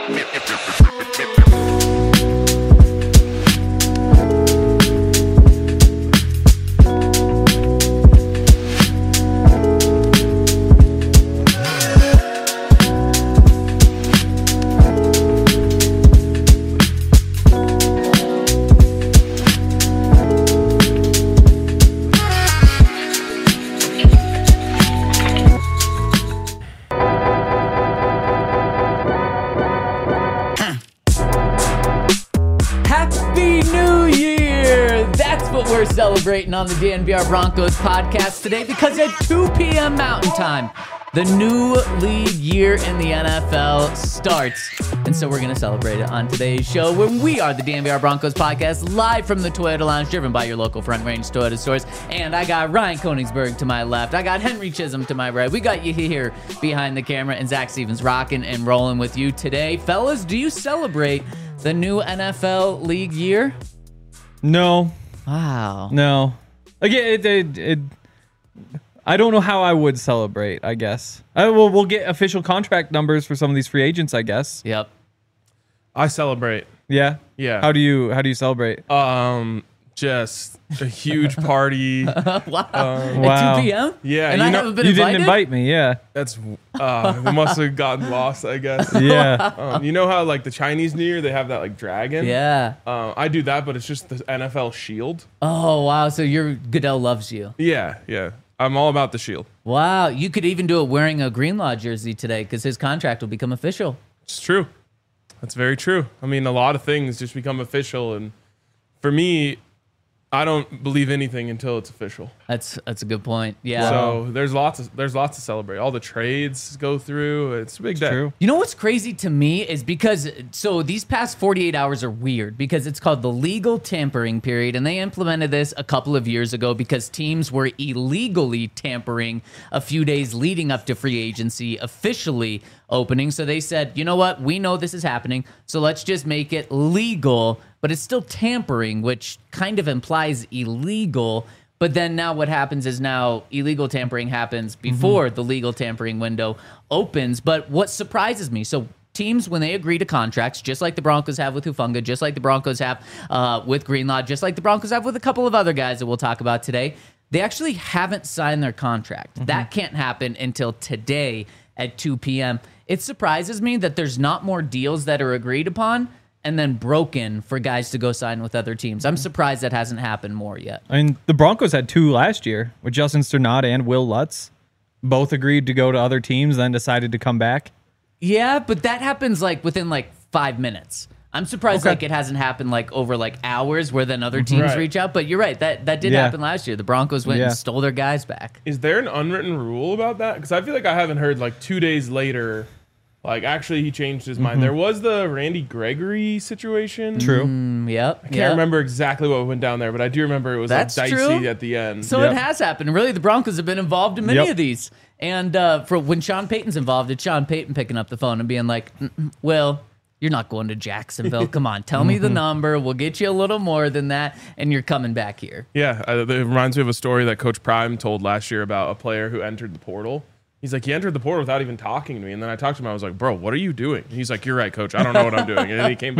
We're celebrating on the DNVR Broncos podcast today because at 2 p.m. Mountain Time, the new league year in the NFL starts. And so we're going to celebrate it on today's show when we are the DNVR Broncos podcast live from the Toyota Lounge, driven by your local Front Range Toyota stores. And I got Ryan Koenigsberg to my left. I got Henry Chisholm to my right. We got you here behind the camera, and Zach Stevens rocking and rolling with you today. Fellas, do you celebrate the new NFL league year? No. Wow. No. Again, I don't know how I would celebrate, I guess. We'll get official contract numbers for some of these free agents, I guess. Yep. I celebrate. Yeah? Yeah. How do you celebrate? Just a huge party. Wow. Wow. At 2 p.m.? Yeah. And I haven't been You invited? didn't invite me, yeah. That's we must have gotten lost, I guess. Yeah. You know how like the Chinese New Year they have that like dragon? Yeah. I do that, but it's just the NFL shield. Oh, wow. So Goodell loves you. Yeah, yeah. I'm all about the shield. Wow. You could even do it wearing a Greenlaw jersey today because his contract will become official. It's true. That's very true. I mean, a lot of things just become official, and for me, I don't believe anything until it's official. That's a good point. Yeah. So there's lots to celebrate. All the trades go through. It's a big day. True. You know what's crazy to me is because, so these past 48 hours are weird because it's called the legal tampering period, and they implemented this a couple of years ago because teams were illegally tampering a few days leading up to free agency officially opening. So they said, you know what? We know this is happening, so let's just make it legal, but it's still tampering, which kind of implies illegal. But then now what happens is now illegal tampering happens before the legal tampering window opens. But what surprises me, so teams, when they agree to contracts, just like the Broncos have with Hufanga, just like the Broncos have with Greenlaw, just like the Broncos have with a couple of other guys that we'll talk about today, they actually haven't signed their contract. That can't happen until today at 2 p.m. It surprises me that there's not more deals that are agreed upon and then broken for guys to go sign with other teams. I'm surprised that hasn't happened more yet. I mean, the Broncos had 2 last year with Justin Sternad and Will Lutz. Both agreed to go to other teams, then decided to come back. Yeah, but that happens like within like 5 minutes. I'm surprised like it hasn't happened like over like hours where then other teams reach out. But you're right, that did happen last year. The Broncos went and stole their guys back. Is there an unwritten rule about that? Because I feel like I haven't heard like 2 days later, like actually he changed his mind. There was the Randy Gregory situation. True. Yep. I can't remember exactly what went down there, but I do remember it was That's like dicey true. at the end. So it has happened. Really, the Broncos have been involved in many Yep. of these. And for when Sean Payton's involved, it's Sean Payton picking up the phone and being like, well, you're not going to Jacksonville. Come on, tell me the number. We'll get you a little more than that, and you're coming back here. Yeah, it reminds me of a story that Coach Prime told last year about a player who entered the portal. He's like, he entered the portal without even talking to me. And then I talked to him. I was like, bro, what are you doing? He's like, you're right, coach. I don't know what I'm doing. And then he came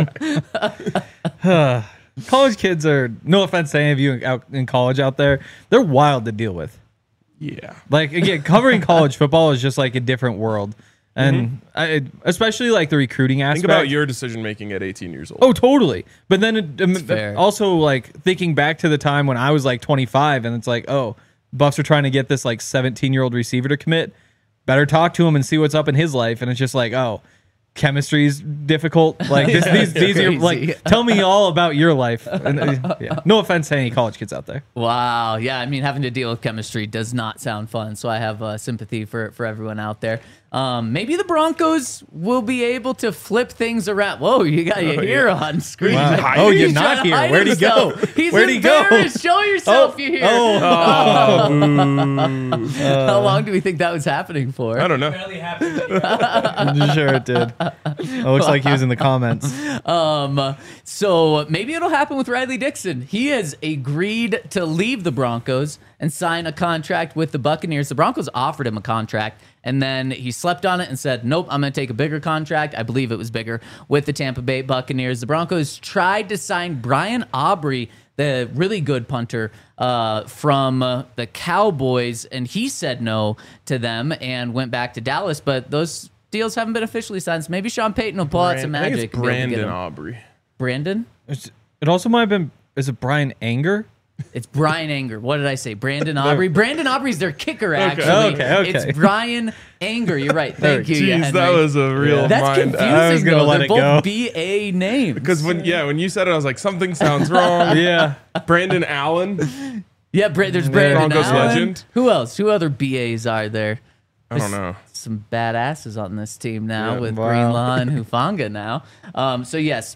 back. College kids are, no offense to any of you out in college out there, they're wild to deal with. Yeah. Like, again, covering college football is just like a different world. And especially like the recruiting aspect. Think about your decision making at 18 years old. Oh, totally. But then fair. also like thinking back to the time when I was like 25 and it's like, oh, Buffs are trying to get this like 17-year-old receiver to commit. Better talk to him and see what's up in his life. And it's just like, oh, chemistry's difficult. Like these are like, tell me all about your life. And, no offense to any college kids out there. Wow. Yeah, I mean, having to deal with chemistry does not sound fun. So I have sympathy for everyone out there. Maybe the Broncos will be able to flip things around. Whoa, you got your hair on screen. Wow. Oh, you're not here. Where'd he go? He's Where'd he go? embarrassed. Show yourself, you're here. How long do we think that was happening for? I don't know. Barely happened. Sure it did. It looks like he was in the comments. So maybe it'll happen with Riley Dixon. He has agreed to leave the Broncos and sign a contract with the Buccaneers. The Broncos offered him a contract, and then he slept on it and said, nope, I'm going to take a bigger contract. I believe it was bigger with the Tampa Bay Buccaneers. The Broncos tried to sign Brian Aubrey, the really good punter from the Cowboys, and he said no to them and went back to Dallas, but those deals haven't been officially signed, so maybe Sean Payton will pull out some I think magic. it's to be able to get Brandon him. Aubrey. Brandon? It also might have been. Is it Brian Anger? It's Brian Anger. What did I say? Brandon Aubrey. Brandon Aubrey's their kicker, actually. Okay. It's Brian Anger. You're right. Thank you. Jeez, Henry. that was a real That's mind. confusing, I was gonna though. let They're it both go. BA names. Because when you said it, I was like, something sounds wrong. Yeah. Brandon Allen. Yeah, there's Brandon Broncos Allen. legend. Who else? Who other BAs are there? I don't know. Some badasses on this team now Yeah, with wow. Greenlaw and Hufanga now. So, yes,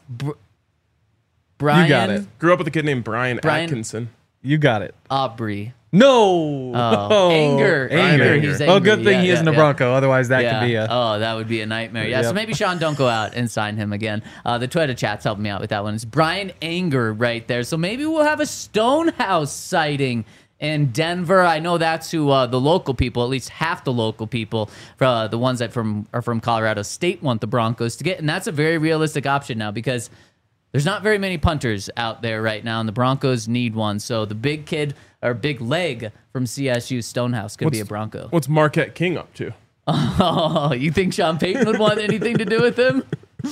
Brian You got it. Grew up with a kid named Brian Brian- Atkinson. You got it. Aubrey. No. Oh, Anger. Anger. He's Oh, good angry. thing he Yeah, isn't a yeah. Bronco. Otherwise, that Yeah. could be a. Oh, that would be a nightmare. Yeah, so Yep. maybe Sean, don't go out and sign him again. The Twitter chat's helping me out with that one. It's Brian Anger right there. So maybe we'll have a Stonehouse sighting in Denver. I know that's who the local people, at least half the local people, the ones that are from Colorado State, want the Broncos to get. And that's a very realistic option now because there's not very many punters out there right now, and the Broncos need one. So the big kid or big leg from CSU, Stonehouse, could be a Bronco. What's Marquette King up to? Oh, you think Sean Payton would want anything to do with him?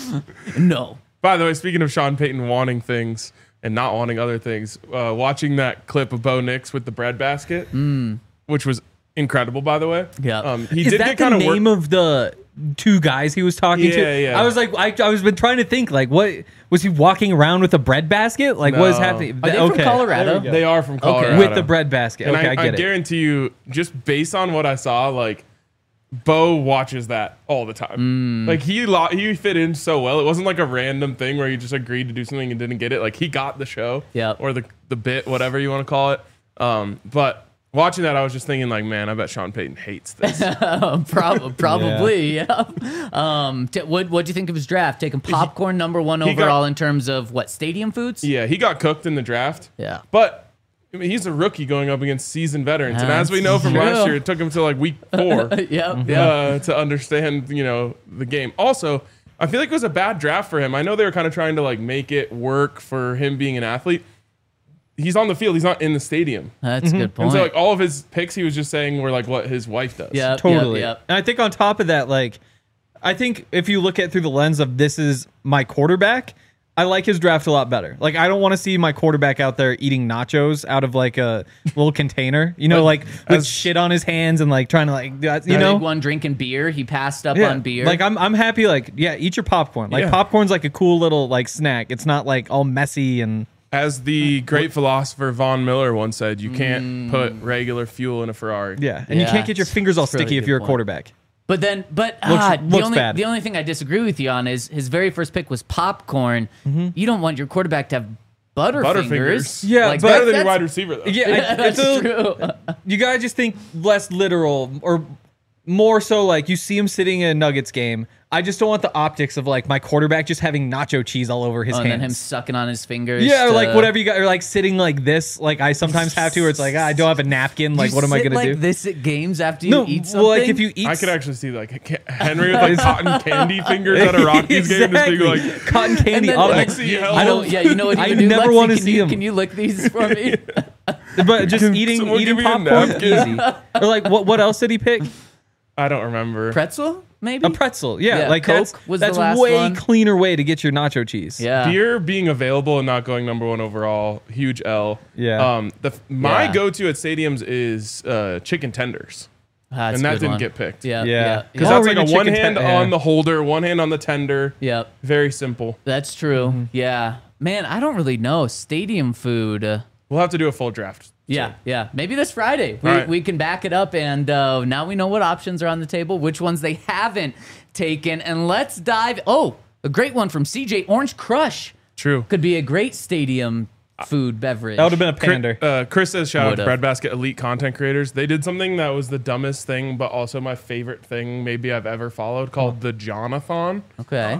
No. By the way, speaking of Sean Payton wanting things and not wanting other things, watching that clip of Bo Nix with the bread basket, which was incredible, by the way. Yeah. He Is did that get the kind of name of the two guys he was talking to? Yeah. I was like, I was been trying to think, like, what was he walking around with a bread basket? Like, what is No. happening? Are they from Colorado? They are from Colorado. With the bread basket. And Okay, I I get it. guarantee you, just based on what I saw, like, Bo watches that all the time. Like, he fit in so well. It wasn't like a random thing where he just agreed to do something and didn't get it. Like, he got the show. Yep. Or the bit, whatever you want to call it. But watching that, I was just thinking, like, man, I bet Sean Payton hates this. Probably, yeah. What do you think of his draft? Taking popcorn number one overall in terms of what, stadium foods? Yeah, he got cooked in the draft. Yeah. But I mean, he's a rookie going up against seasoned veterans. And as we know from That's last true. year, it took him to like week 4 Yeah. to understand, the game. Also, I feel like it was a bad draft for him. I know they were kind of trying to like make it work for him being an athlete. He's on the field. He's not in the stadium. That's a good point. And so like all of his picks, he was just saying were like what his wife does. Yeah, Totally. Yep. And I think on top of that, like, I think if you look at through the lens of this is my quarterback, I like his draft a lot better. Like, I don't want to see my quarterback out there eating nachos out of like a little container, like with shit on his hands and like trying to like, Big one drinking beer. He passed up on beer. Like I'm happy. Like, yeah, eat your popcorn. Like popcorn's like a cool little like snack. It's not like all messy and. As the great philosopher Von Miller once said, you can't put regular fuel in a Ferrari. Yeah, and you can't get your fingers all that's a really sticky if good you're a point. quarterback. But looks bad. the only thing I disagree with you on is his very first pick was popcorn. You don't want your quarterback to have Butterfingers. Yeah, Like, but- Better than your that's- wide receiver, though. Yeah, That's true. You gotta just think less literal or more so like you see him sitting in a Nuggets game. I just don't want the optics of like my quarterback just having nacho cheese all over his And then him hands. sucking on his fingers. Yeah, or to- like whatever you got, or like sitting like this, like I sometimes have to, where it's like I don't have a napkin. Like, You what am I sit gonna like do? this at games after you No, eat something? well, like if you eat, I could actually see like Henry with like cotton candy fingers at a Rockies game, just being like, cotton And candy. then, all like, like, Lexi, you help. know, yeah, you know what you I can do? never Lexi, wanna can see you- him. Can you lick these for me? but just eating someone give me a popcorn napkin. easy. Or like what else did he pick? I don't remember. Pretzel, maybe? A pretzel. Yeah, Yeah, like Coke was the that's last way one. cleaner way to get your nacho cheese. Yeah. Beer being available and not going number 1 overall, huge L. Yeah. My Yeah. go-to at stadiums is chicken tenders, That's and a that good didn't one. get picked. Yeah. Yeah. Yeah. Because Oh, that's we're like a eating one chicken hand yeah. on the holder, one hand on the tender. Yep. Very simple. That's true. Yeah. Man, I don't really know. Stadium food. We'll have to do a full draft. Yeah, yeah. Maybe this Friday we, All right. we can back it up, and now we know what options are on the table, which ones they haven't taken, and let's dive. Oh, a great one from CJ. Orange Crush True. could be a great stadium food beverage. That would have been a pander. Chris says, shout out to Would've. Breadbasket Elite content creators. They did something that was the dumbest thing, but also my favorite thing maybe I've ever followed, called the Jonathon. Okay.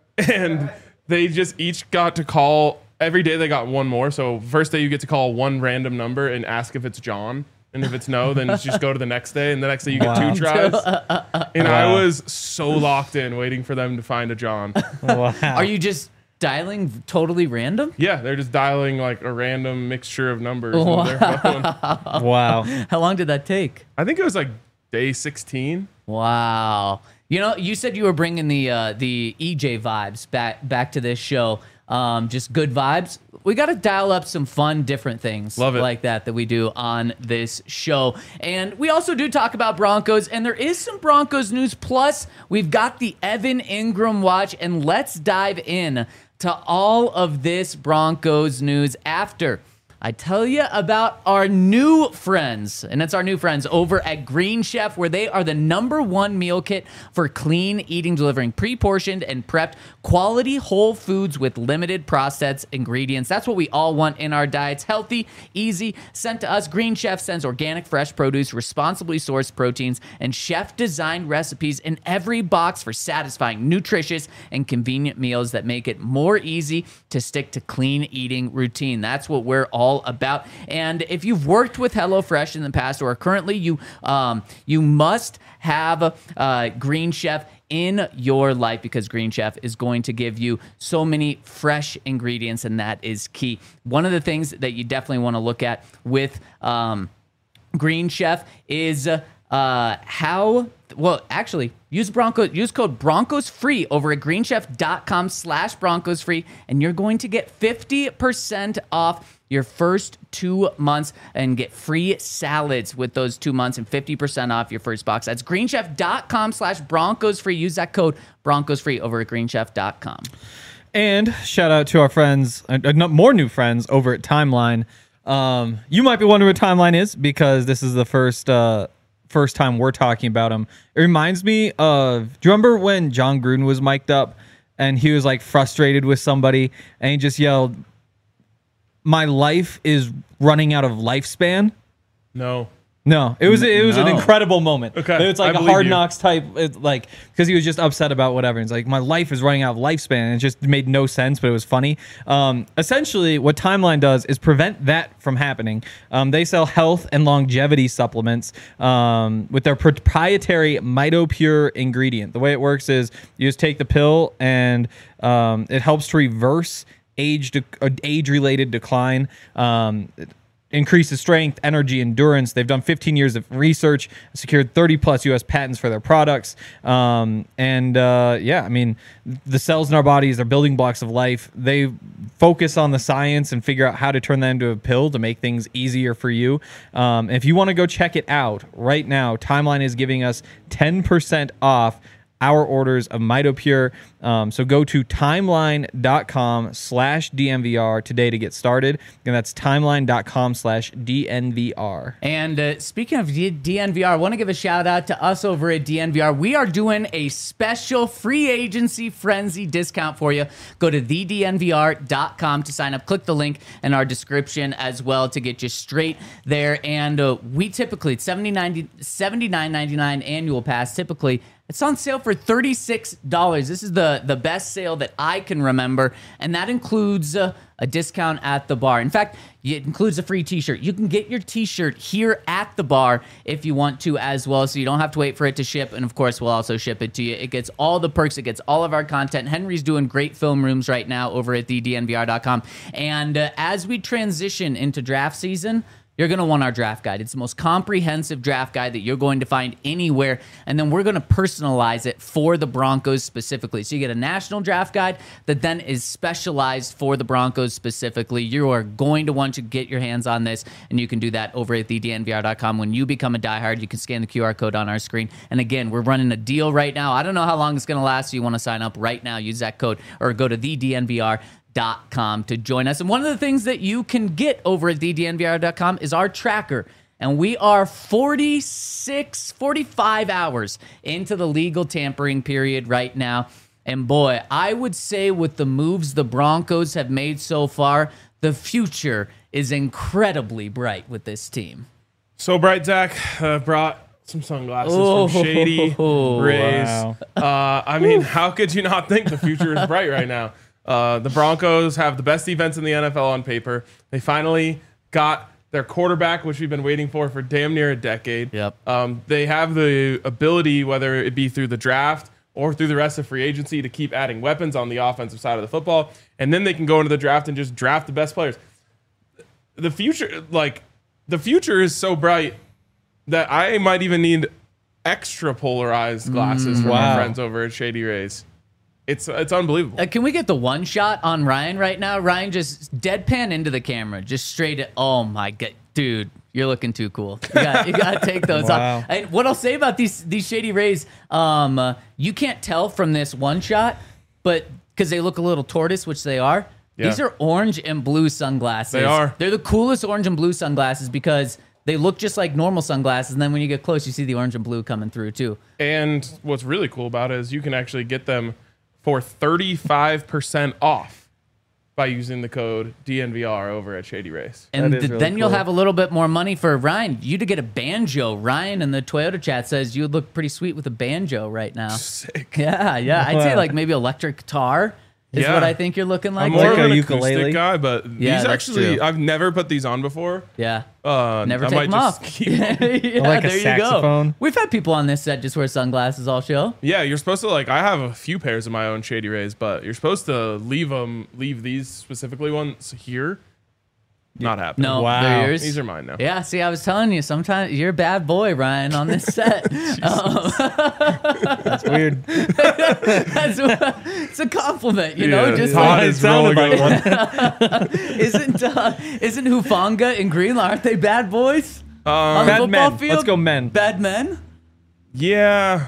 And they just each got to call, every day they got one more. So first day you get to call one random number and ask if it's John. And if it's no, then you just go to the next day, and the next day you get 2 tries. And I was so locked in waiting for them to find a John. Wow. Are you just dialing totally random? Yeah, they're just dialing like a random mixture of numbers into their phone. Wow. How long did that take? I think it was like day 16. Wow. You know, you said you were bringing the EJ vibes back to this show. Just good vibes. We got to dial up some fun, different things. Love it. Like that we do on this show. And we also do talk about Broncos, and there is some Broncos news. Plus, we've got the Evan Ingram watch, and let's dive in to all of this Broncos news after I tell you about our new friends, and it's our new friends over at Green Chef, where they are the #1 meal kit for clean eating, delivering pre-portioned and prepped quality whole foods with limited processed ingredients. That's what we all want in our diets. Healthy, easy, sent to us. Green Chef sends organic, fresh produce, responsibly sourced proteins, and chef-designed recipes in every box for satisfying, nutritious, and convenient meals that make it more easy to stick to clean eating routine. That's what we're all about. And if you've worked with HelloFresh in the past or currently, you must have Green Chef in your life, because Green Chef is going to give you so many fresh ingredients, and that is key. One of the things that you definitely want to look at with Green Chef is use code BroncosFree over at greenchef.com/BroncosFree, and you're going to get 50% off your first 2 months and get free salads with those 2 months and 50% off your first box. That's greenchef.com/BroncosFree. Use that code BroncosFree over at greenchef.com. And shout out to our friends, more new friends over at Timeline. You might be wondering what Timeline is, because this is the first time we're talking about them. It reminds me of, do you remember when John Gruden was mic'd up and he was like frustrated with somebody and he just yelled, "My life is running out of lifespan"? No. No, it was an No. incredible moment. Okay, It's like I a believe Hard you. Knocks type, because he was just upset about whatever. It's like, my life is running out of lifespan. And it just made no sense, but it was funny. Essentially, what Timeline does is prevent that from happening. They sell health and longevity supplements with their proprietary MitoPure ingredient. The way it works is you just take the pill, and it helps to reverse age-related decline. It increases strength, energy, endurance. They've done 15 years of research, secured 30 plus U.S. patents for their products. I mean, the cells in our bodies are building blocks of life. They focus on the science and figure out how to turn that into a pill to make things easier for you. If you want to go check it out right now, Timeline is giving us 10% off our orders of MitoPure. So go to timeline.com/DNVR today to get started. And that's timeline.com/DNVR. And speaking of DNVR, I want to give a shout out to us over at DNVR. We are doing a special free agency frenzy discount for you. Go to thednvr.com to sign up. Click the link in our description as well to get you straight there. And we typically, it's $79.99 annual pass. Typically, it's on sale for $36. This is the best sale that I can remember, and that includes a discount at the bar. In fact, it includes a free t-shirt. You can get your t-shirt here at the bar if you want to as well, so you don't have to wait for it to ship, and of course, we'll also ship it to you. It gets all the perks. It gets all of our content. Henry's doing great film rooms right now over at thednvr.com, and as we transition into draft season, you're going to want our draft guide. It's the most comprehensive draft guide that you're going to find anywhere. And then we're going to personalize it for the Broncos specifically. So you get a national draft guide that then is specialized for the Broncos specifically. You are going to want to get your hands on this, and you can do that over at thednvr.com. When you become a diehard, you can scan the QR code on our screen. And again, we're running a deal right now. I don't know how long it's going to last, so you want to sign up right now. Use that code or go to thednvr.com to join us. And one of the things that you can get over at thednvr.com is our tracker. And we are 45 hours into the legal tampering period right now. And boy, I would say with the moves the Broncos have made so far, the future is incredibly bright with this team. So bright, Zach. Brought some sunglasses from Shady Rays. Wow. I mean, how could you not think the future is bright right now? The Broncos have the best defense in the NFL on paper. They finally got their quarterback, which we've been waiting for damn near a decade. Yep. They have the ability, whether it be through the draft or through the rest of free agency, to keep adding weapons on the offensive side of the football. And then they can go into the draft and just draft the best players. The future is so bright that I might even need extra polarized glasses for my friends over at Shady Rays. It's unbelievable. Can we get the one shot on Ryan right now? Ryan, just deadpan into the camera, just straight at. Oh my god, dude, you're looking too cool. You got to take those off. And what I'll say about these Shady Rays, you can't tell from this one shot, but because they look a little tortoise, which they are. Yeah. These are orange and blue sunglasses. They are. They're the coolest orange and blue sunglasses because they look just like normal sunglasses, and then when you get close, you see the orange and blue coming through too. And what's really cool about it is you can actually get them for 35% off by using the code DNVR over at Shady Rays. And That is really then you'll cool. have a little bit more money for Ryan. You to get a banjo. Ryan in the Toyota chat says you would look pretty sweet with a banjo right now. Sick. Yeah. I'd say Wow. like maybe electric guitar is Yeah. what I think you're looking like. I'm more Like of a an ukulele? acoustic guy, but Yeah, these that's actually, true. I've never put these on before. Yeah. I Never might take them just off. keep yeah, like a there you saxophone. go. We've had people on this set just wear sunglasses all show. Yeah, you're supposed to I have a few pairs of my own Shady Rays, but you're supposed to leave these specifically ones here. Not happening. No, Wow. they're yours. These are mine now. Yeah, see, I was telling you, sometimes you're a bad boy, Ryan, on this set. That's weird. It's a compliment, you know. Yeah, Just Todd like, It is sounded rolling like over. isn't Hufanga and Greenlaw, aren't they bad boys on the Bad football men. field? Let's go men. Bad men? Yeah.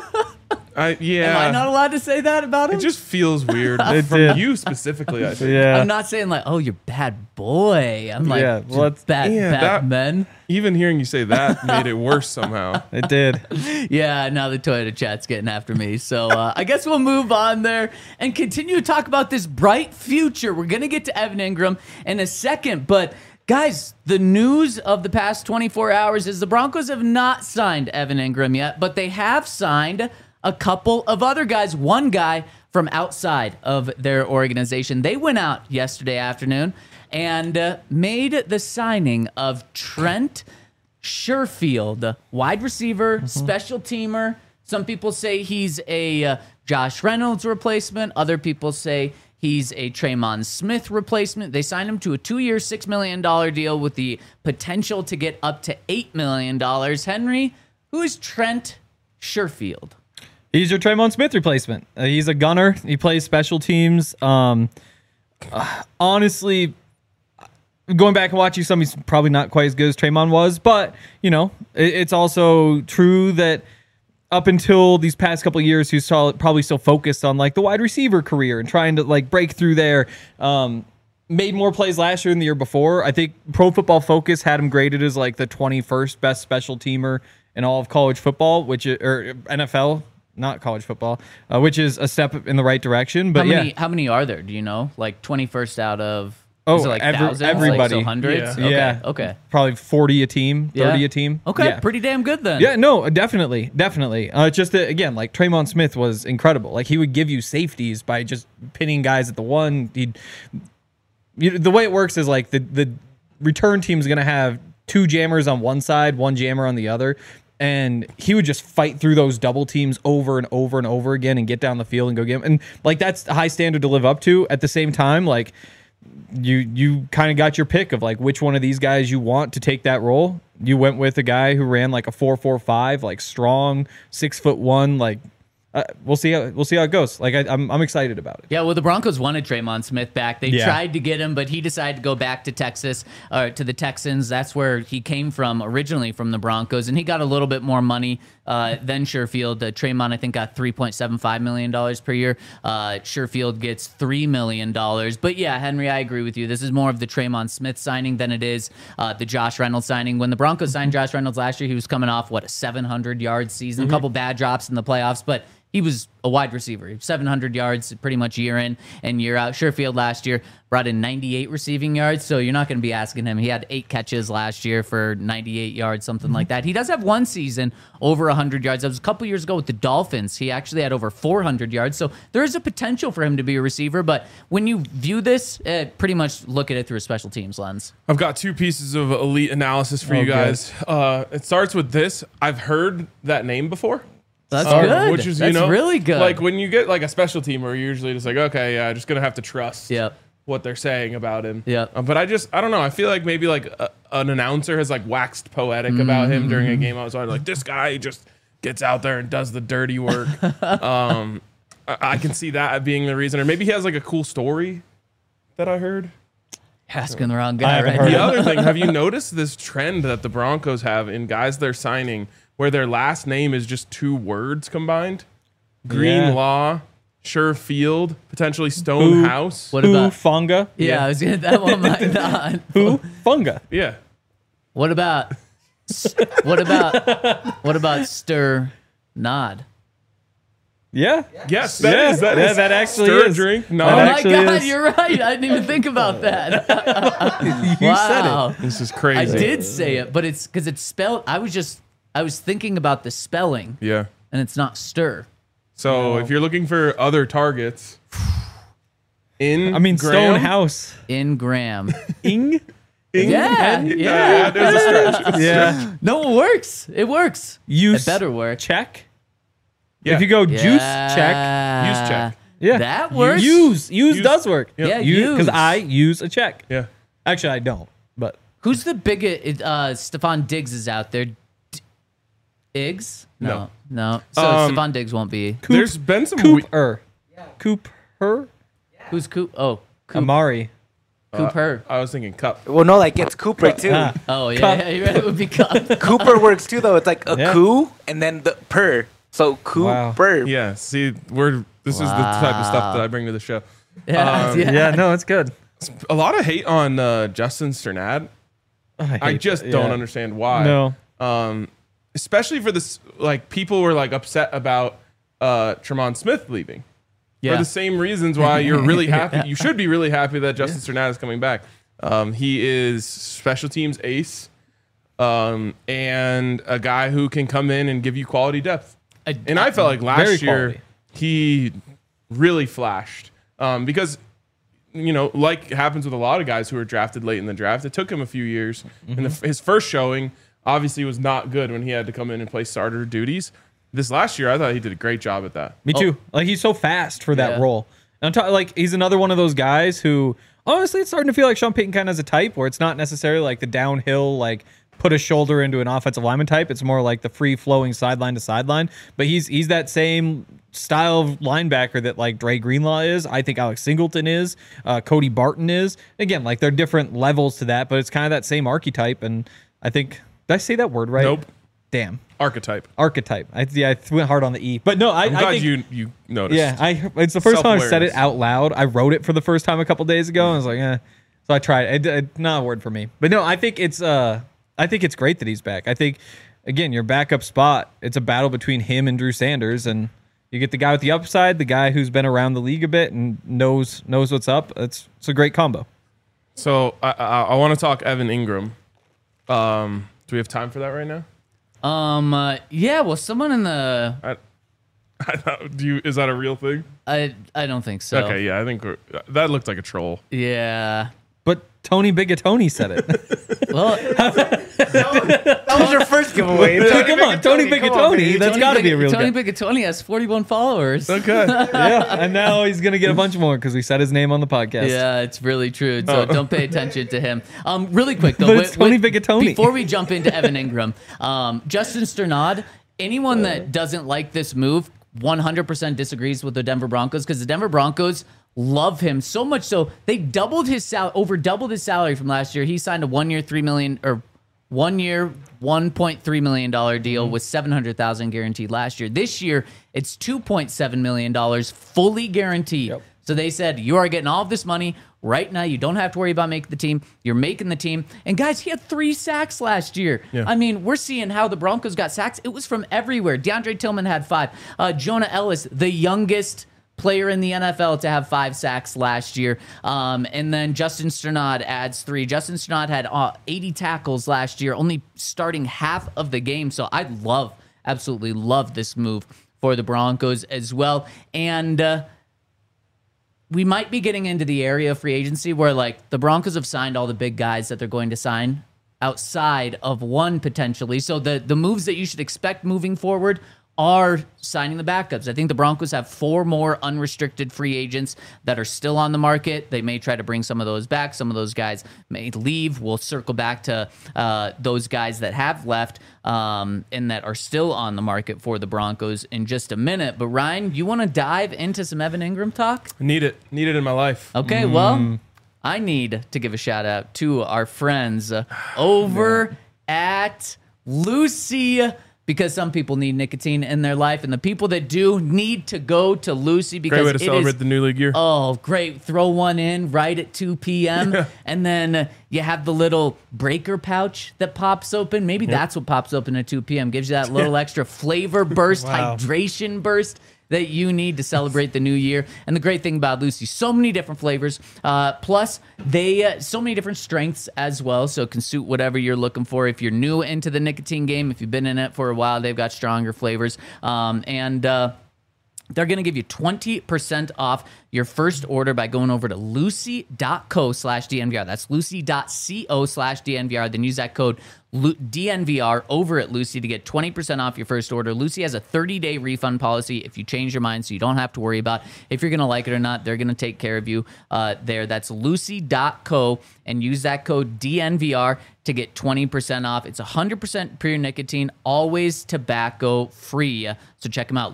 Am I not allowed to say that about him? It just feels weird It from did. you specifically, I think. Yeah. I'm not saying like, oh, you're bad boy. I'm like, Yeah, well, just bad that- men. Even hearing you say that made it worse somehow. It did. Yeah, now the Toyota chat's getting after me. So I guess we'll move on there and continue to talk about this bright future. We're going to get to Evan Ingram in a second, but guys, the news of the past 24 hours is the Broncos have not signed Evan Ingram yet, but they have signed a couple of other guys. One guy from outside of their organization. They went out yesterday afternoon and made the signing of Trent Sherfield, wide receiver, special teamer. Some people say he's a Josh Reynolds replacement. Other people say he's a Traymon Smith replacement. They signed him to a 2-year, $6 million deal with the potential to get up to $8 million. Henry, who is Trent Sherfield? He's your Traymon Smith replacement. He's a gunner. He plays special teams. Honestly, going back and watching some, he's probably not quite as good as Traymon was. But, you know, it's also true that up until these past couple of years, he's probably still focused on, like, the wide receiver career and trying to, like, break through there. Made more plays last year than the year before. I think Pro Football Focus had him graded as, like, the 21st best special teamer in all of college football, or NFL. Not college football, which is a step in the right direction. But How many are there? Do you know? Like 21st out of Oh, is it like thousands? everybody. Like, so hundreds? Yeah. Okay. Yeah. Okay. probably 40 a team, 30 Yeah. a team. Okay. Yeah. Pretty damn good then. Yeah, no, definitely. It's just that, again, like Traymon Smith was incredible. Like he would give you safeties by just pinning guys at the one. The way it works is like the return team is going to have 2 jammers on one side, 1 jammer on the other. And he would just fight through those double teams over and over and over again and get down the field and go get him. And like that's a high standard to live up to. At the same time, like you kind of got your pick of like which one of these guys you want to take that role. You went with a guy who ran like a 4.45, like strong, 6'1", like we'll see how it goes. Like I'm excited about it. Yeah, well, the Broncos wanted Traymon Smith back. They Yeah. tried to get him, but he decided to go back to Texas, to the Texans. That's where he came from originally, from the Broncos, and he got a little bit more money than Sherfield. Traymon, I think, got $3.75 million per year. Sherfield gets $3 million. But yeah, Henry, I agree with you. This is more of the Traymon Smith signing than it is the Josh Reynolds signing. When the Broncos signed Josh Reynolds last year, he was coming off, a 700-yard season, a couple bad drops in the playoffs, but he was a wide receiver. 700 yards pretty much year in and year out. Sherfield last year brought in 98 receiving yards, so you're not going to be asking him. He had 8 catches last year for 98 yards, something like that. He does have one season over 100 yards. That was a couple years ago with the Dolphins. He actually had over 400 yards, so there is a potential for him to be a receiver, but when you view this, pretty much look at it through a special teams lens. I've got 2 pieces of elite analysis for you guys. It starts with this. I've heard that name before. That's good. Which is, That's really good. Like when you get like a special team, where you're usually just like, okay, yeah, just gonna have to trust what they're saying about him. But I don't know. I feel like maybe like an announcer has like waxed poetic about him during a game. I was like, this guy just gets out there and does the dirty work. I can see that being the reason, or maybe he has like a cool story that I heard. Asking the wrong guy, right? The other thing, have you noticed this trend that the Broncos have in guys they're signing where their last name is just 2 words combined? Greenlaw, Sherfield, potentially Stonehouse. What about Funga? Yeah, I was gonna, that one might not. Funga? Yeah. What about Stir Nod? Yeah. Yes, that is that actually stir is. drink. No, Oh my actually God, is. you're right. I didn't even think about that. You said Wow. it. this is I crazy. did say it, but it's because it's spelled. I was thinking about the spelling, Yeah. and it's not stir. So if you're looking for other targets, Graham, Stonehouse. In Graham. Ing? Yeah. There's a stretch. Yeah. No, it works. It works. Use It better work. check. Yeah. If you go juice check. Use check. Yeah. That works. Use does work. Yeah, Because use. I use a check. Yeah. Actually, I don't. But Who's the biggest? Stephon Diggs is out there. Diggs? No. So Stephon Diggs won't be. There's been some Cooper. Cooper. Who's Coop? Oh, Coop. Amari. Cooper. I was thinking cup. Well, no, like it's Cooper too. Oh yeah, you're right. It would be Cup. Cooper works too, though. It's like a Yeah. coo and then the per. So Cooper. Yeah. See, this is the type of stuff that I bring to the show. Yeah, Yeah, no, it's good. A lot of hate on Justin Sternad. I just don't understand why. No. Especially for this, like people were like upset about Tremont Smith leaving. For the same reasons why you're really happy. You should be really happy that Justin Sternad is coming back. He is special teams ace, and a guy who can come in and give you quality depth. And I felt like last year quality. he really flashed because, like happens with a lot of guys who are drafted late in the draft, it took him a few years. And his first showing obviously was not good when he had to come in and play starter duties. This last year, I thought he did a great job at that. Me too. Like he's so fast for that role. And I'm talking like he's another one of those guys who honestly it's starting to feel like Sean Payton kind of has a type where it's not necessarily like the downhill like put a shoulder into an offensive lineman type. It's more like the free flowing sideline to sideline. But he's that same style of linebacker that like Dre Greenlaw is. I think Alex Singleton is. Cody Barton is. Again, like they're different levels to that, but it's kind of that same archetype. And I think did I say that word right? Nope. Damn. Archetype. Archetype. I went hard on the E. But no, I'm I glad think, you noticed. yeah, it's the first time I said it Self-awareness. out loud. I wrote it for the first time a couple days ago. And I was like, So I tried. It's not a word for me. But no, I think it's great that he's back. I think again, your backup spot, it's a battle between him and Drew Sanders, and you get the guy with the upside, the guy who's been around the league a bit and knows what's up. It's a great combo. So I want to talk Evan Ingram. Do we have time for that right now? Yeah. Well, someone in the. Is that a real thing? I don't think so. Okay, yeah, I think that looked like a troll. Yeah. But Tony Bigatoni said it. Well, That was your first giveaway. Come on, Tony Bigatoni. That's got to be a real Tony guy. Bigatoni has 41 followers. Okay. Yeah, and now he's gonna get a bunch more because we said his name on the podcast. Yeah, it's really true. So don't pay attention to him. Really quick though, But it's Tony Bigatoni. Before we jump into Evan Ingram, Justin Sternad. Anyone that doesn't like this move 100% disagrees with the Denver Broncos because the Denver Broncos love him so much so they doubled his over doubled his salary from last year. He signed a 1 year $1.3 million deal with $700,000 guaranteed last year. This year it's $2.7 million fully guaranteed. Yep. So they said, you are getting all of this money right now. You don't have to worry about making the team. You're making the team. And guys, he had 3 sacks last year. Yeah. I mean, we're seeing how the Broncos got sacks. It was from everywhere. DeAndre Tillman had 5. Jonah Ellis, the youngest player in the NFL to have 5 sacks last year. And then Justin Strnad adds 3. Justin Strnad had 80 tackles last year, only starting half of the game. So I absolutely love this move for the Broncos as well. And we might be getting into the area of free agency where, like, the Broncos have signed all the big guys that they're going to sign outside of one potentially. So the moves that you should expect moving forward are signing the backups. I think the Broncos have 4 more unrestricted free agents that are still on the market. They may try to bring some of those back. Some of those guys may leave. We'll circle back to those guys that have left and that are still on the market for the Broncos in just a minute. But Ryan, you want to dive into some Evan Ingram talk? Need it in my life. Okay, well, I need to give a shout out to our friends over at Lucy, because some people need nicotine in their life, and the people that do need to go to Lucy because Great way to celebrate the new league year. Oh, great. Throw one in right at 2 p.m. And then you have the little breaker pouch that pops open. Maybe that's what pops open at 2 p.m. Gives you that little extra flavor burst, hydration burst that you need to celebrate the new year. And the great thing about Lucy, so many different flavors. Plus, they so many different strengths as well, so it can suit whatever you're looking for. If you're new into the nicotine game, if you've been in it for a while, they've got stronger flavors. They're going to give you 20% off your first order by going over to lucy.co/DNVR. That's lucy.co/DNVR. Then use that code DNVR over at Lucy to get 20% off your first order. Lucy has a 30-day refund policy if you change your mind, so you don't have to worry about if you're going to like it or not. They're going to take care of you there. That's lucy.co, and use that code DNVR to get 20% off. It's 100% pure nicotine, always tobacco free. So check them out,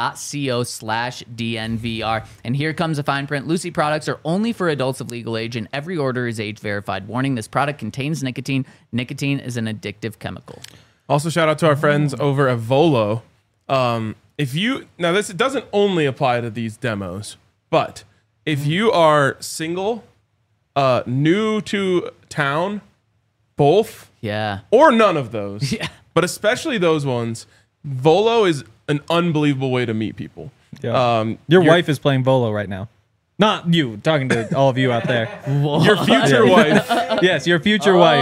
lucy.co/DNVR. And here comes the fine print. Lucy products are only for adults of legal age, and every order is age verified. Warning, this product contains nicotine. Nicotine is an addictive chemical. Also, shout out to our friends over at Volo. It doesn't only apply to these demos, but if you are single, new to town, both, or none of those, but especially those ones, Volo is an unbelievable way to meet people. Yeah. Your wife is playing Volo right now. Not you, talking to all of you out there. Your future wife. Yes, your future wife.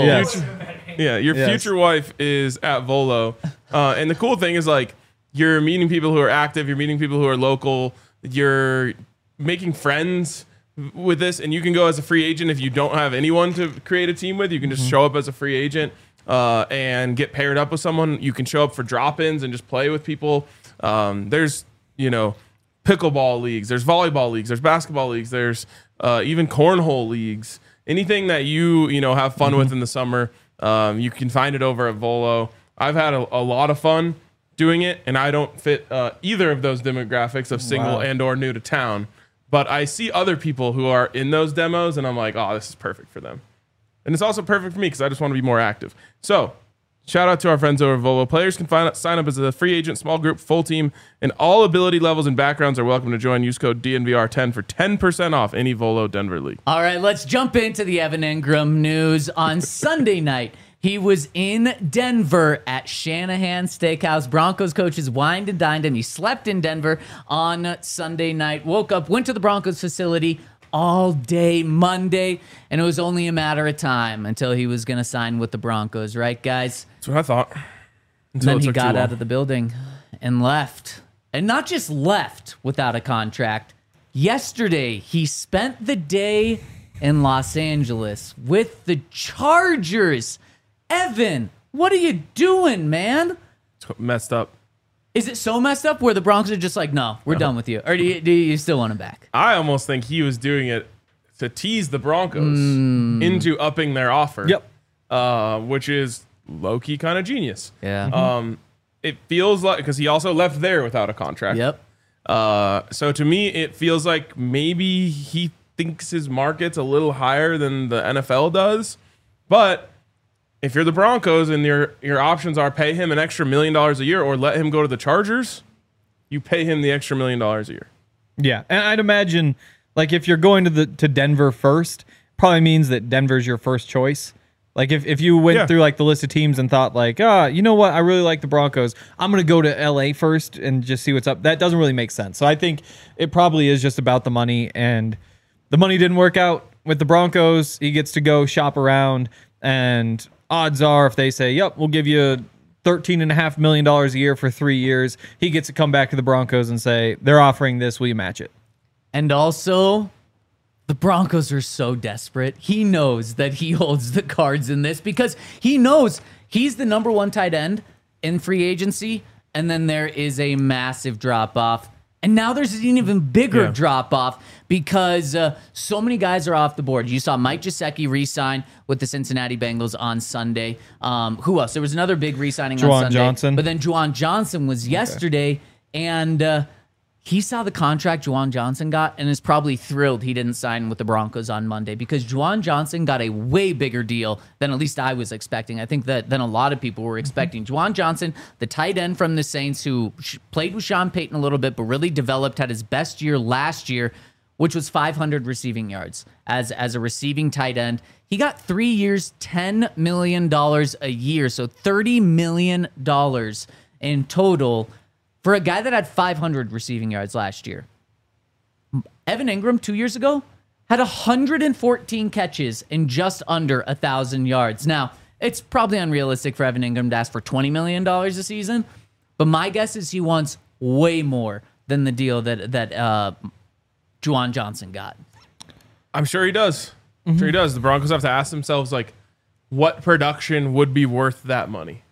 Your future wife is at Volo. And the cool thing is, like, you're meeting people who are active, you're meeting people who are local, you're making friends with this, and you can go as a free agent if you don't have anyone to create a team with. You can just show up as a free agent and get paired up with someone. You can show up for drop-ins and just play with people. There's, pickleball leagues, there's volleyball leagues, there's basketball leagues, there's even cornhole leagues. Anything that you have fun with in the summer, you can find it over at Volo. I've had a lot of fun doing it, and I don't fit either of those demographics of single and or new to town. But I see other people who are in those demos, and I'm like, oh, this is perfect for them. And it's also perfect for me because I just want to be more active. So shout out to our friends over at Volo. Players can sign up as a free agent, small group, full team, and all ability levels and backgrounds are welcome to join. Use code DNVR10 for 10% off any Volo Denver league. All right, let's jump into the Evan Ingram news. On Sunday night, he was in Denver at Shanahan Steakhouse. Broncos coaches wined and dined him. He slept in Denver on Sunday night, woke up, went to the Broncos facility all day Monday, and it was only a matter of time until he was going to sign with the Broncos, right, guys? That's what I thought. And then he got out of the building and left. And not just left without a contract. Yesterday, he spent the day in Los Angeles with the Chargers. Evan, what are you doing, man? It's messed up. Is it so messed up where the Broncos are just like, no, we're done with you? Or do you still want him back? I almost think he was doing it to tease the Broncos into upping their offer. Yep. Which is low-key kind of genius. Yeah. It feels like, because he also left there without a contract. Yep. So to me, it feels like maybe he thinks his market's a little higher than the NFL does. But if you're the Broncos and your options are pay him an extra $1 million a year or let him go to the Chargers, you pay him the extra $1 million a year. Yeah, and I'd imagine like if you're going to Denver first, probably means that Denver's your first choice. Like if you went through like the list of teams and thought like, you know what, I really like the Broncos, I'm gonna go to LA first and just see what's up. That doesn't really make sense. So I think it probably is just about the money, and the money didn't work out with the Broncos. He gets to go shop around, and odds are if they say, yep, we'll give you $13.5 million a year for 3 years, he gets to come back to the Broncos and say, they're offering this, will you match it? And also, the Broncos are so desperate. He knows that he holds the cards in this because he knows he's the number one tight end in free agency, and then there is a massive drop-off. And now there's an even bigger drop-off because so many guys are off the board. You saw Mike Gesicki re-sign with the Cincinnati Bengals on Sunday. Who else? There was another big re-signing on Sunday. Johnson. But then Juwan Johnson was yesterday, and he saw the contract Juwan Johnson got and is probably thrilled he didn't sign with the Broncos on Monday because Juwan Johnson got a way bigger deal than at least I was expecting. I think that than a lot of people were expecting. Juwan Johnson, the tight end from the Saints who played with Sean Payton a little bit but really developed, had his best year last year, which was 500 receiving yards as a receiving tight end. He got 3 years, $10 million a year, so $30 million in total for a guy that had 500 receiving yards last year. Evan Ingram 2 years ago had 114 catches and just under 1,000 yards. Now, it's probably unrealistic for Evan Ingram to ask for $20 million a season, but my guess is he wants way more than the deal that Juwan Johnson got. I'm sure he does. I'm sure he does. The Broncos have to ask themselves, like, what production would be worth that money?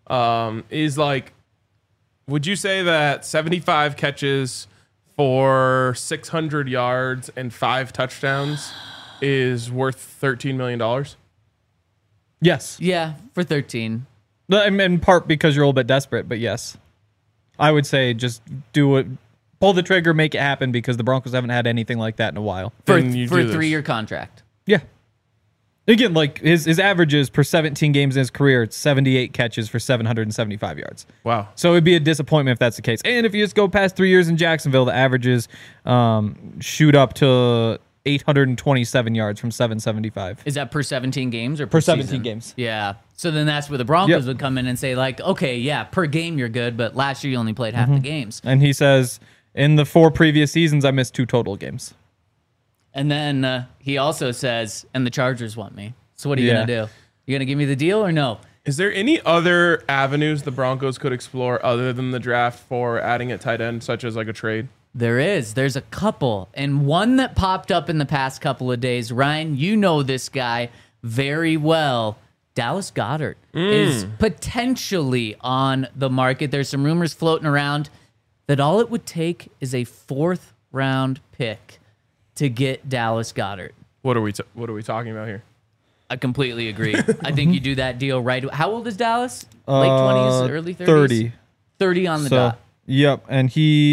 Would you say that 75 catches for 600 yards and 5 touchdowns is worth $13 million? Yes. Yeah, for 13. In part because you're a little bit desperate, but yes. I would say just do it. Pull the trigger, make it happen, because the Broncos haven't had anything like that in a while. For a 3-year contract. Yeah. Again, like his averages per 17 games in his career, it's 78 catches for 775 yards. Wow. So it'd be a disappointment if that's the case. And if you just go past 3 years in Jacksonville, the averages shoot up to 827 yards from 775. Is that per 17 games or Per 17 season? games. Yeah. So then that's where the Broncos would come in and say, like, okay, yeah, per game you're good, but last year you only played half the games. And he says, in the 4 previous seasons, I missed 2 total games. And then he also says, and the Chargers want me. So what are you going to do? You going to give me the deal or no? Is there any other avenues the Broncos could explore other than the draft for adding a tight end, such as like a trade? There is. There's a couple. And one that popped up in the past couple of days. Ryan, you know this guy very well. Dallas Goedert is potentially on the market. There's some rumors floating around that all it would take is a 4th-round pick to get Dallas Goedert. What are we talking about here? I completely agree. I think you do that deal right. How old is Dallas? Late 20s, early 30s? 30. 30 on the dot. Yep, and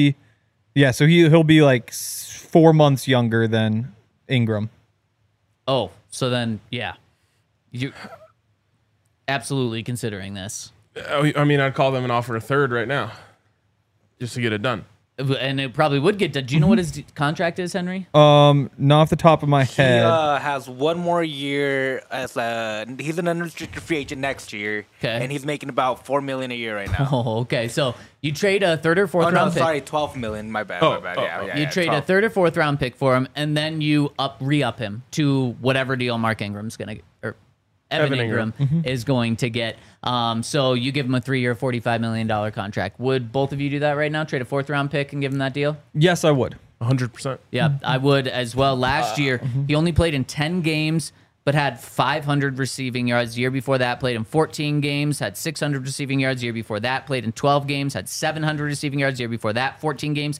so he'll be like 4 months younger than Ingram. Oh, so then, yeah. You absolutely considering this. I mean, I'd call them and offer a 3rd right now just to get it done. And it probably would get done. Do you know what his contract is, Henry? Not off the top of my head. He has 1 more year as he's an unrestricted free agent next year. Okay. And he's making about $4 million a year right now. Oh, okay. So you trade a 3rd or 4th Oh no, round pick. sorry, $12 million. My bad. You trade 12. a 3rd or 4th round pick for him, and then you re-up him to whatever deal Mark Ingram's gonna get, or Evan Ingram is going to get. So you give him a 3-year, $45 million contract. Would both of you do that right now? Trade a 4th round pick and give him that deal? Yes, I would. 100%. Yeah, I would as well. Last year, he only played in 10 games, but had 500 receiving yards. The year before that, played in 14 games, had 600 receiving yards. The year before that, played in 12 games, had 700 receiving yards. The year before that, 14 games,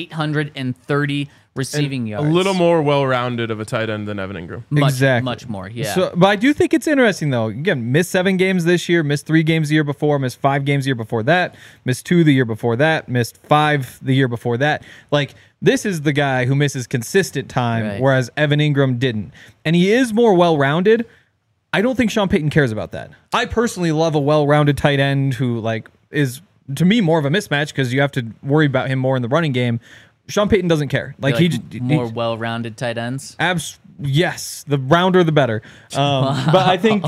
830 receiving yards. A little more well-rounded of a tight end than Evan Ingram. Much more, yeah. So, but I do think it's interesting, though. Again, missed 7 games this year, missed 3 games the year before, missed 5 games the year before that, missed 2 the year before that, missed 5 the year before that. Like, this is the guy who misses consistent time, whereas Evan Ingram didn't. And he is more well-rounded. I don't think Sean Payton cares about that. I personally love a well-rounded tight end who, like, is, to me, more of a mismatch because you have to worry about him more in the running game. Sean Payton doesn't care. Like more well-rounded tight ends. Yes, the rounder the better. But I think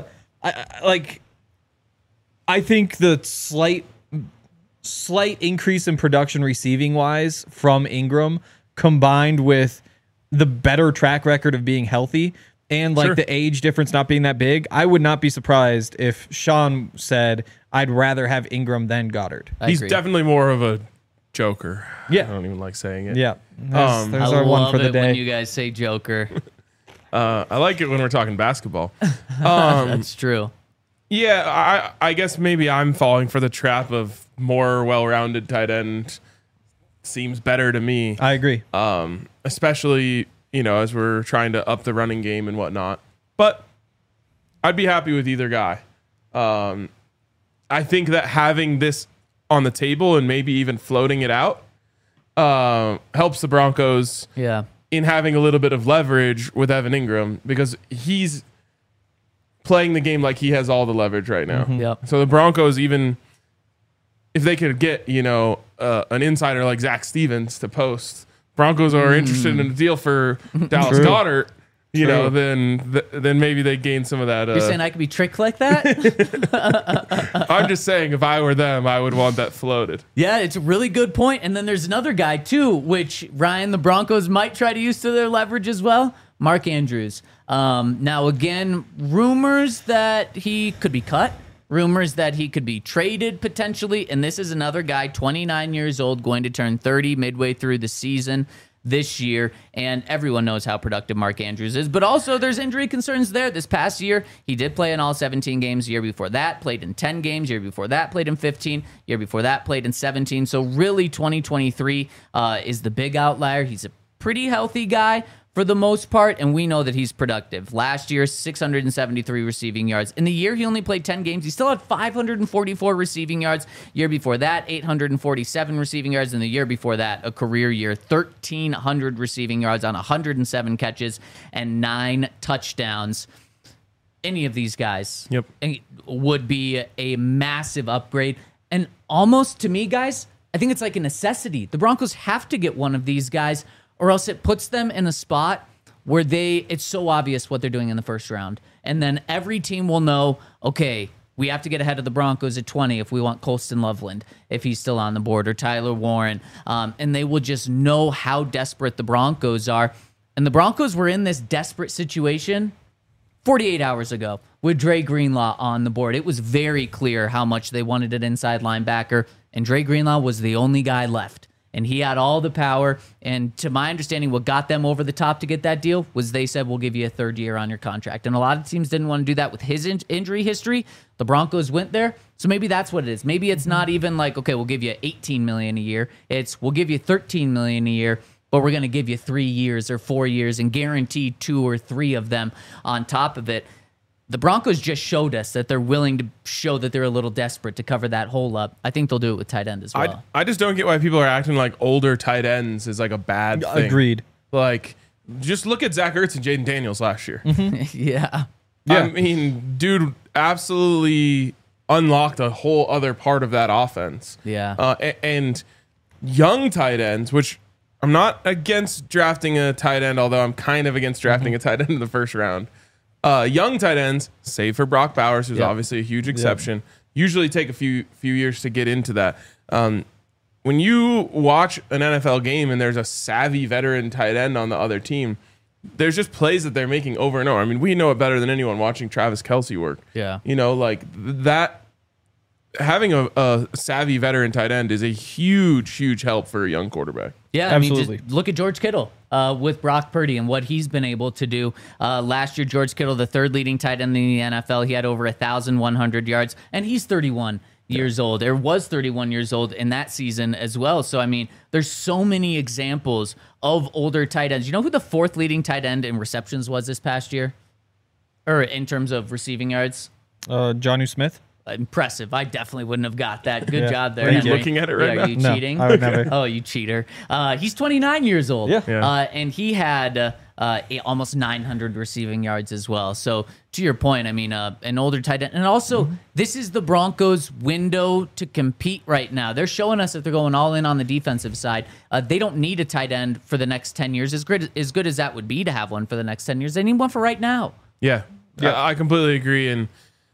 I think the slight increase in production receiving wise from Ingram, combined with the better track record of being healthy and like the age difference not being that big, I would not be surprised if Sean said, I'd rather have Ingram than Goddard. He's definitely more of a joker. Yeah. I don't even like saying it. Yeah. There's I our one love for the it when day. you guys say Joker. I like it when we're talking basketball. That's true. Yeah, I guess maybe I'm falling for the trap of more well-rounded tight end seems better to me. I agree. Especially, as we're trying to up the running game and whatnot. But I'd be happy with either guy. I think that having this on the table and maybe even floating it out helps the Broncos in having a little bit of leverage with Evan Ingram, because he's playing the game like he has all the leverage right now. Yep. So the Broncos, even if they could get, an insider like Zach Stevens to post, Broncos are interested in a deal for Dallas Goedert, then maybe they gain some of that. You're saying I could be tricked like that? I'm just saying, if I were them, I would want that floated. Yeah, it's a really good point. And then there's another guy, too, which, Ryan, the Broncos might try to use to their leverage as well. Mark Andrews. Now, again, rumors that he could be cut. Rumors that he could be traded potentially. And this is another guy, 29 years old, going to turn 30 midway through the season this year. And everyone knows how productive Mark Andrews is. But also there's injury concerns there. This past year, he did play in all 17 games. The year before that, played in 10 games. Year before that, played in 15. Year before that, played in 17. So really 2023 is the big outlier. He's a pretty healthy guy for the most part, and we know that he's productive. Last year, 673 receiving yards. In the year he only played 10 games, he still had 544 receiving yards. Year before that, 847 receiving yards. And the year before that, a career year, 1,300 receiving yards on 107 catches and 9 touchdowns. Any of these guys would be a massive upgrade. And almost, to me, guys, I think it's like a necessity. The Broncos have to get one of these guys, or else it puts them in a spot where it's so obvious what they're doing in the first round. And then every team will know, okay, we have to get ahead of the Broncos at 20 if we want Colston Loveland, if he's still on the board, or Tyler Warren. And they will just know how desperate the Broncos are. And the Broncos were in this desperate situation 48 hours ago with Dre Greenlaw on the board. It was very clear how much they wanted an inside linebacker, and Dre Greenlaw was the only guy left. And he had all the power. And to my understanding, what got them over the top to get that deal was they said, we'll give you a third year on your contract. And a lot of teams didn't want to do that with his injury history. The Broncos went there. So maybe that's what it is. Maybe it's not even like, okay, we'll give you $18 million a year. It's, we'll give you $13 million a year, but we're going to give you 3 years or 4 years and guarantee 2 or 3 of them on top of it. The Broncos just showed us that they're willing to show that they're a little desperate to cover that hole up. I think they'll do it with tight end as well. I just don't get why people are acting like older tight ends is like a bad thing. Agreed. Like, just look at Zach Ertz and Jaden Daniels last year. Yeah. I mean, dude absolutely unlocked a whole other part of that offense. Yeah. And young tight ends, which I'm not against drafting a tight end, although I'm kind of against drafting a tight end in the first round. Young tight ends, save for Brock Bowers, who's obviously a huge exception, usually take a few years to get into that. When you watch an NFL game and there's a savvy veteran tight end on the other team, there's just plays that they're making over and over. I mean, we know it better than anyone watching Travis Kelce work. Yeah. You know, like that. Having a savvy veteran tight end is a huge help for a young quarterback. Yeah, absolutely. I mean, just look at George Kittle with Brock Purdy and what he's been able to do. Last year, George Kittle, the third leading tight end in the NFL, he had over 1,100 yards, and he's 31 years old, or was 31 years old in that season as well. So, I mean, there's so many examples of older tight ends. You know who the fourth leading tight end in receptions was this past year? Or in terms of receiving yards? Jonnu Smith. Impressive. I definitely wouldn't have got that. Good job there. Are you Henry. looking at it right now? Are you cheating? I would never. Oh, you cheater. He's 29 years old. Yeah. Yeah. And he had almost 900 receiving yards as well. So to your point, I mean, an older tight end. And also, this is the Broncos' window to compete right now. They're showing us that they're going all in on the defensive side. They don't need a tight end for the next 10 years. As good as that would be to have one for the next 10 years, they need one for right now. Yeah, I completely agree. And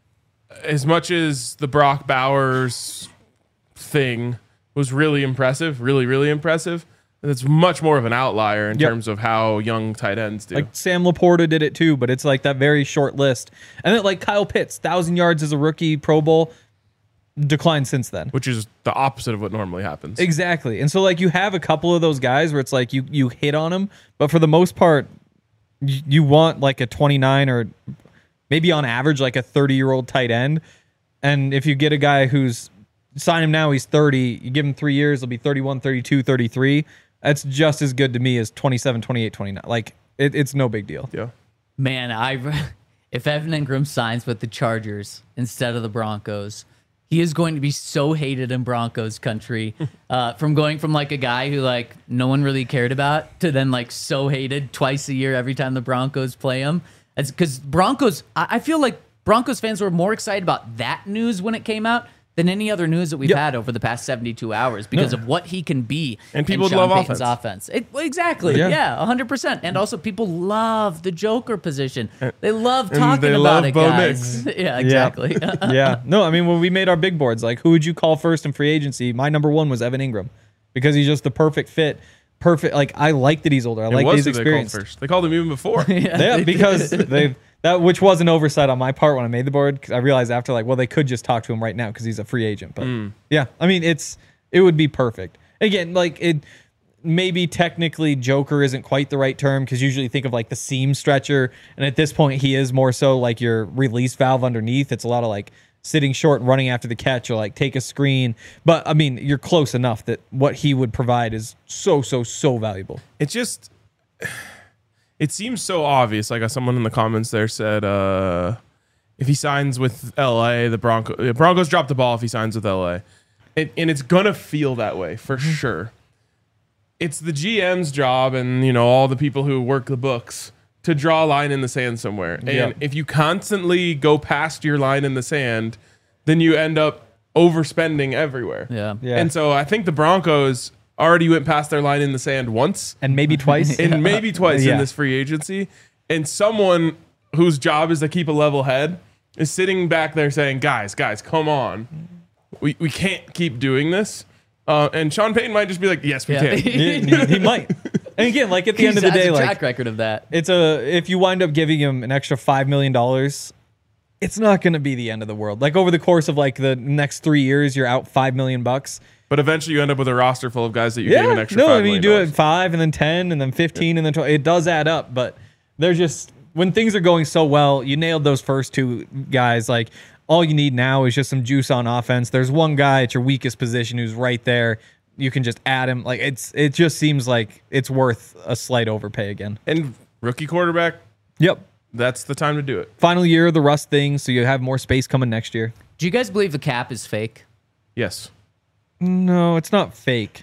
as much as the Brock Bowers thing was really impressive, really impressive, it's much more of an outlier in terms of how young tight ends do. Like Sam Laporta did it too, but it's like that very short list. And then like Kyle Pitts, 1,000 yards as a rookie, Pro Bowl, declined since then. Which is the opposite of what normally happens. Exactly. And so like you have a couple of those guys where it's like you hit on them, but for the most part, you want like a 29 or maybe on average like a 30-year-old tight end. And if you get a guy who's sign him now, he's 30, you give him 3 years, he'll be 31, 32, 33. That's just as good to me as 27, 28, 29. Like, it's no big deal. Yeah. Man, if Evan Ingram signs with the Chargers instead of the Broncos, he is going to be so hated in Broncos country. From going from like a guy who like no one really cared about to then like so hated twice a year every time the Broncos play him. It's because Broncos, I feel like Broncos fans were more excited about that news when it came out than any other news that we've had over the past 72 hours because of what he can be and people in Sean love Payton's offense. Exactly. Yeah, 100%. And also people love the Joker position. They love talking about it, Bo guys. Yeah, exactly. Yeah. No, I mean, when we made our big boards, like who would you call first in free agency? My number one was Evan Ingram because he's just the perfect fit. Perfect. Like, I like that he's older. I like that he's experienced. They called him even before. Yeah, because that which was an oversight on my part when I made the board. Cause I realized after, like, well, they could just talk to him right now because he's a free agent. But yeah, I mean, it would be perfect. Again, like maybe technically Joker isn't quite the right term because usually you think of like the seam stretcher, and at this point he is more so like your release valve underneath. It's a lot of like sitting short and running after the catch or like take a screen. But I mean, you're close enough that what he would provide is so valuable. It's just, it seems so obvious. Like someone in the comments there said, if he signs with LA, the Broncos drop the ball if he signs with LA. And it's going to feel that way for sure. It's the GM's job and, you know, all the people who work the books to draw a line in the sand somewhere. And if you constantly go past your line in the sand, then you end up overspending everywhere. Yeah. And so I think the Broncos already went past their line in the sand once. And maybe twice. And maybe twice in this free agency. And someone whose job is to keep a level head is sitting back there saying, guys, come on. We can't keep doing this. And Sean Payton might just be like, yes, we can. he might. And again, like at the end of the day, a like track record of that. If you wind up giving him an extra $5 million, it's not going to be the end of the world. Like over the course of like the next 3 years, you're out $5 million. But eventually you end up with a roster full of guys that you gave an extra $5 million. You do it 5 and then 10 and then 15 and then 12. It does add up, but they're just, when things are going so well, you nailed those first two guys. Like all you need now is just some juice on offense. There's one guy at your weakest position who's right there. You can just add him. Like it just seems like it's worth a slight overpay again. And rookie quarterback. Yep. That's the time to do it. Final year of the Russ thing, so you have more space coming next year. Do you guys believe the cap is fake? Yes. No, it's not fake.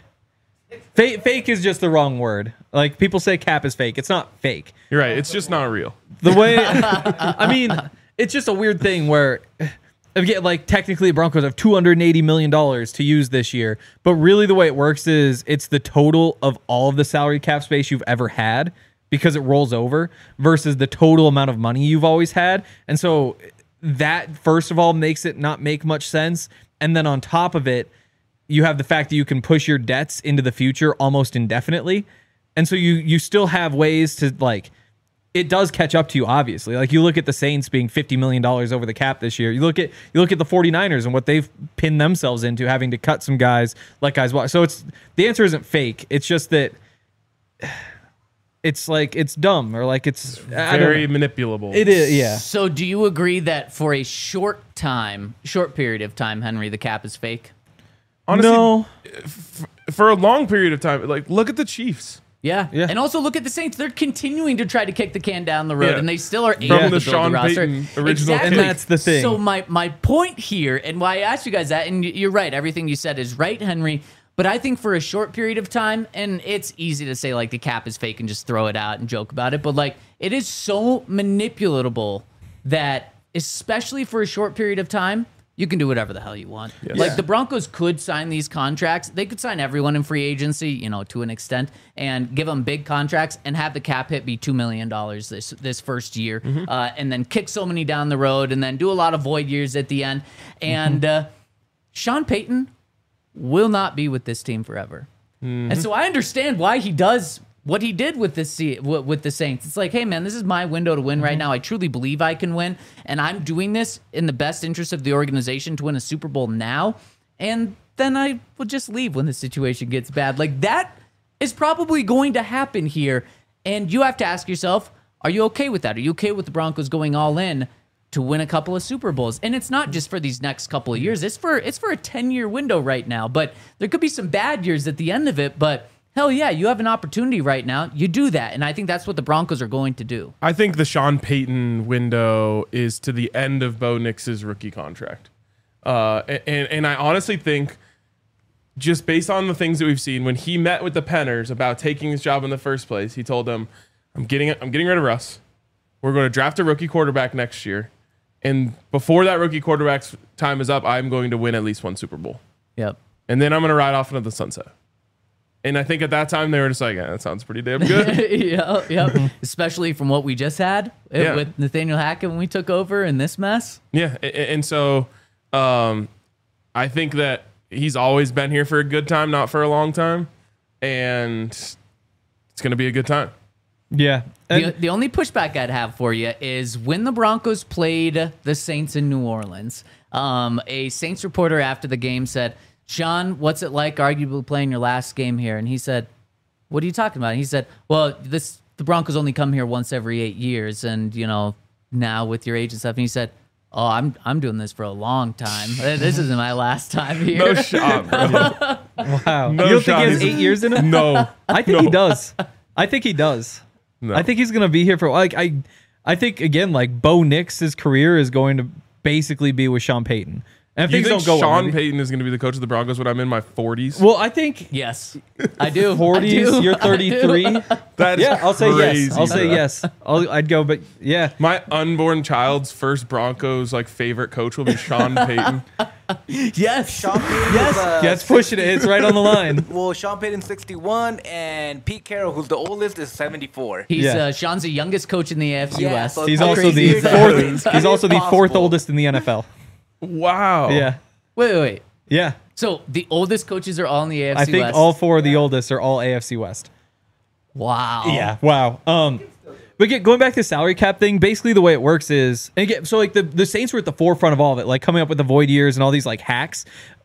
Fake is just the wrong word. Like people say cap is fake. It's not fake. You're right. It's just not real. The way, I mean, it's just a weird thing where, again, like technically the Broncos have $280 million to use this year, but really the way it works is it's the total of all of the salary cap space you've ever had because it rolls over versus the total amount of money you've always had. And so that, first of all, makes it not make much sense. And then on top of it, you have the fact that you can push your debts into the future almost indefinitely. And so you still have ways to like, it does catch up to you, obviously. Like you look at the Saints being $50 million over the cap this year. You look at the 49ers and what they've pinned themselves into, having to cut some guys, let guys walk. So the answer isn't fake. It's just that it's like it's dumb or like it's very manipulable. It is, yeah. So do you agree that for a short period of time, Henry, the cap is fake? Honestly, no. For a long period of time, like look at the Chiefs. Yeah. And also look at the Saints. They're continuing to try to kick the can down the road, and they still are able From to the build Sean the roster. Payton original Exactly. And that's the thing. So my point here, and why I asked you guys that, and you're right, everything you said is right, Henry, But I think for a short period of time, and it's easy to say like the cap is fake and just throw it out and joke about it, but like it is so manipulatable that especially for a short period of time, you can do whatever the hell you want. Yes. Like the Broncos could sign these contracts. They could sign everyone in free agency, to an extent, and give them big contracts and have the cap hit be $2 million this first year, and then kick so many down the road, and then do a lot of void years at the end. And Sean Payton will not be with this team forever. And so I understand why he does what he did with the Saints. It's like, hey, man, this is my window to win right now. I truly believe I can win, and I'm doing this in the best interest of the organization to win a Super Bowl now, and then I will just leave when the situation gets bad. Like, that is probably going to happen here, and you have to ask yourself, are you okay with that? Are you okay with the Broncos going all in to win a couple of Super Bowls? And it's not just for these next couple of years. It's for a 10-year window right now, but there could be some bad years at the end of it, but hell yeah, you have an opportunity right now. You do that, and I think that's what the Broncos are going to do. I think the Sean Payton window is to the end of Bo Nix's rookie contract. And I honestly think, just based on the things that we've seen, when he met with the Penners about taking his job in the first place, he told them, I'm getting rid of Russ. We're going to draft a rookie quarterback next year. And before that rookie quarterback's time is up, I'm going to win at least one Super Bowl. Yep. And then I'm going to ride off into the sunset. And I think at that time they were just like, yeah, that sounds pretty damn good. Yep. Especially from what we just had with Nathaniel Hackett when we took over in this mess. Yeah. And so I think that he's always been here for a good time, not for a long time. And it's going to be a good time. Yeah. The only pushback I'd have for you is when the Broncos played the Saints in New Orleans, a Saints reporter after the game said, Sean, what's it like arguably playing your last game here? And he said, what are you talking about? And he said, well, the Broncos only come here once every 8 years. And, now with your age and stuff. And he said, oh, I'm doing this for a long time. This isn't my last time here. No shot, bro. Wow. No you don't shot. think he has 8 years in him? No. I think he does. I think he does. No. I think he's going to be here for I think again, like Bo Nix's career is going to basically be with Sean Payton. And if You things think don't go Sean well, Payton is going to be the coach of the Broncos when I'm in my 40s? well, I think Yes, I do. 40s, you're 33. That's Yeah, I'll say crazy, yes. I'll say bro. yes. I'd go, but yeah. My unborn child's first Broncos favorite coach will be Sean Payton. Yes. Sean Payton Yes. is, That's pushing it. It's right on the line. well, Sean Payton's 61, and Pete Carroll, who's the oldest, is 74. He's Yeah. Sean's the youngest coach in the AFC Yeah, West. so He's how also crazy the is that? fourth. He's also the fourth Impossible. oldest in the NFL. Wow. Yeah. Wait. Yeah. So the oldest coaches are all in the AFC I think West. all four of the oldest are all AFC West. Wow. Wow. But going back to the salary cap thing, basically the way it works is, and again, so the Saints were at the forefront of all of it, like coming up with the void years and all these hacks.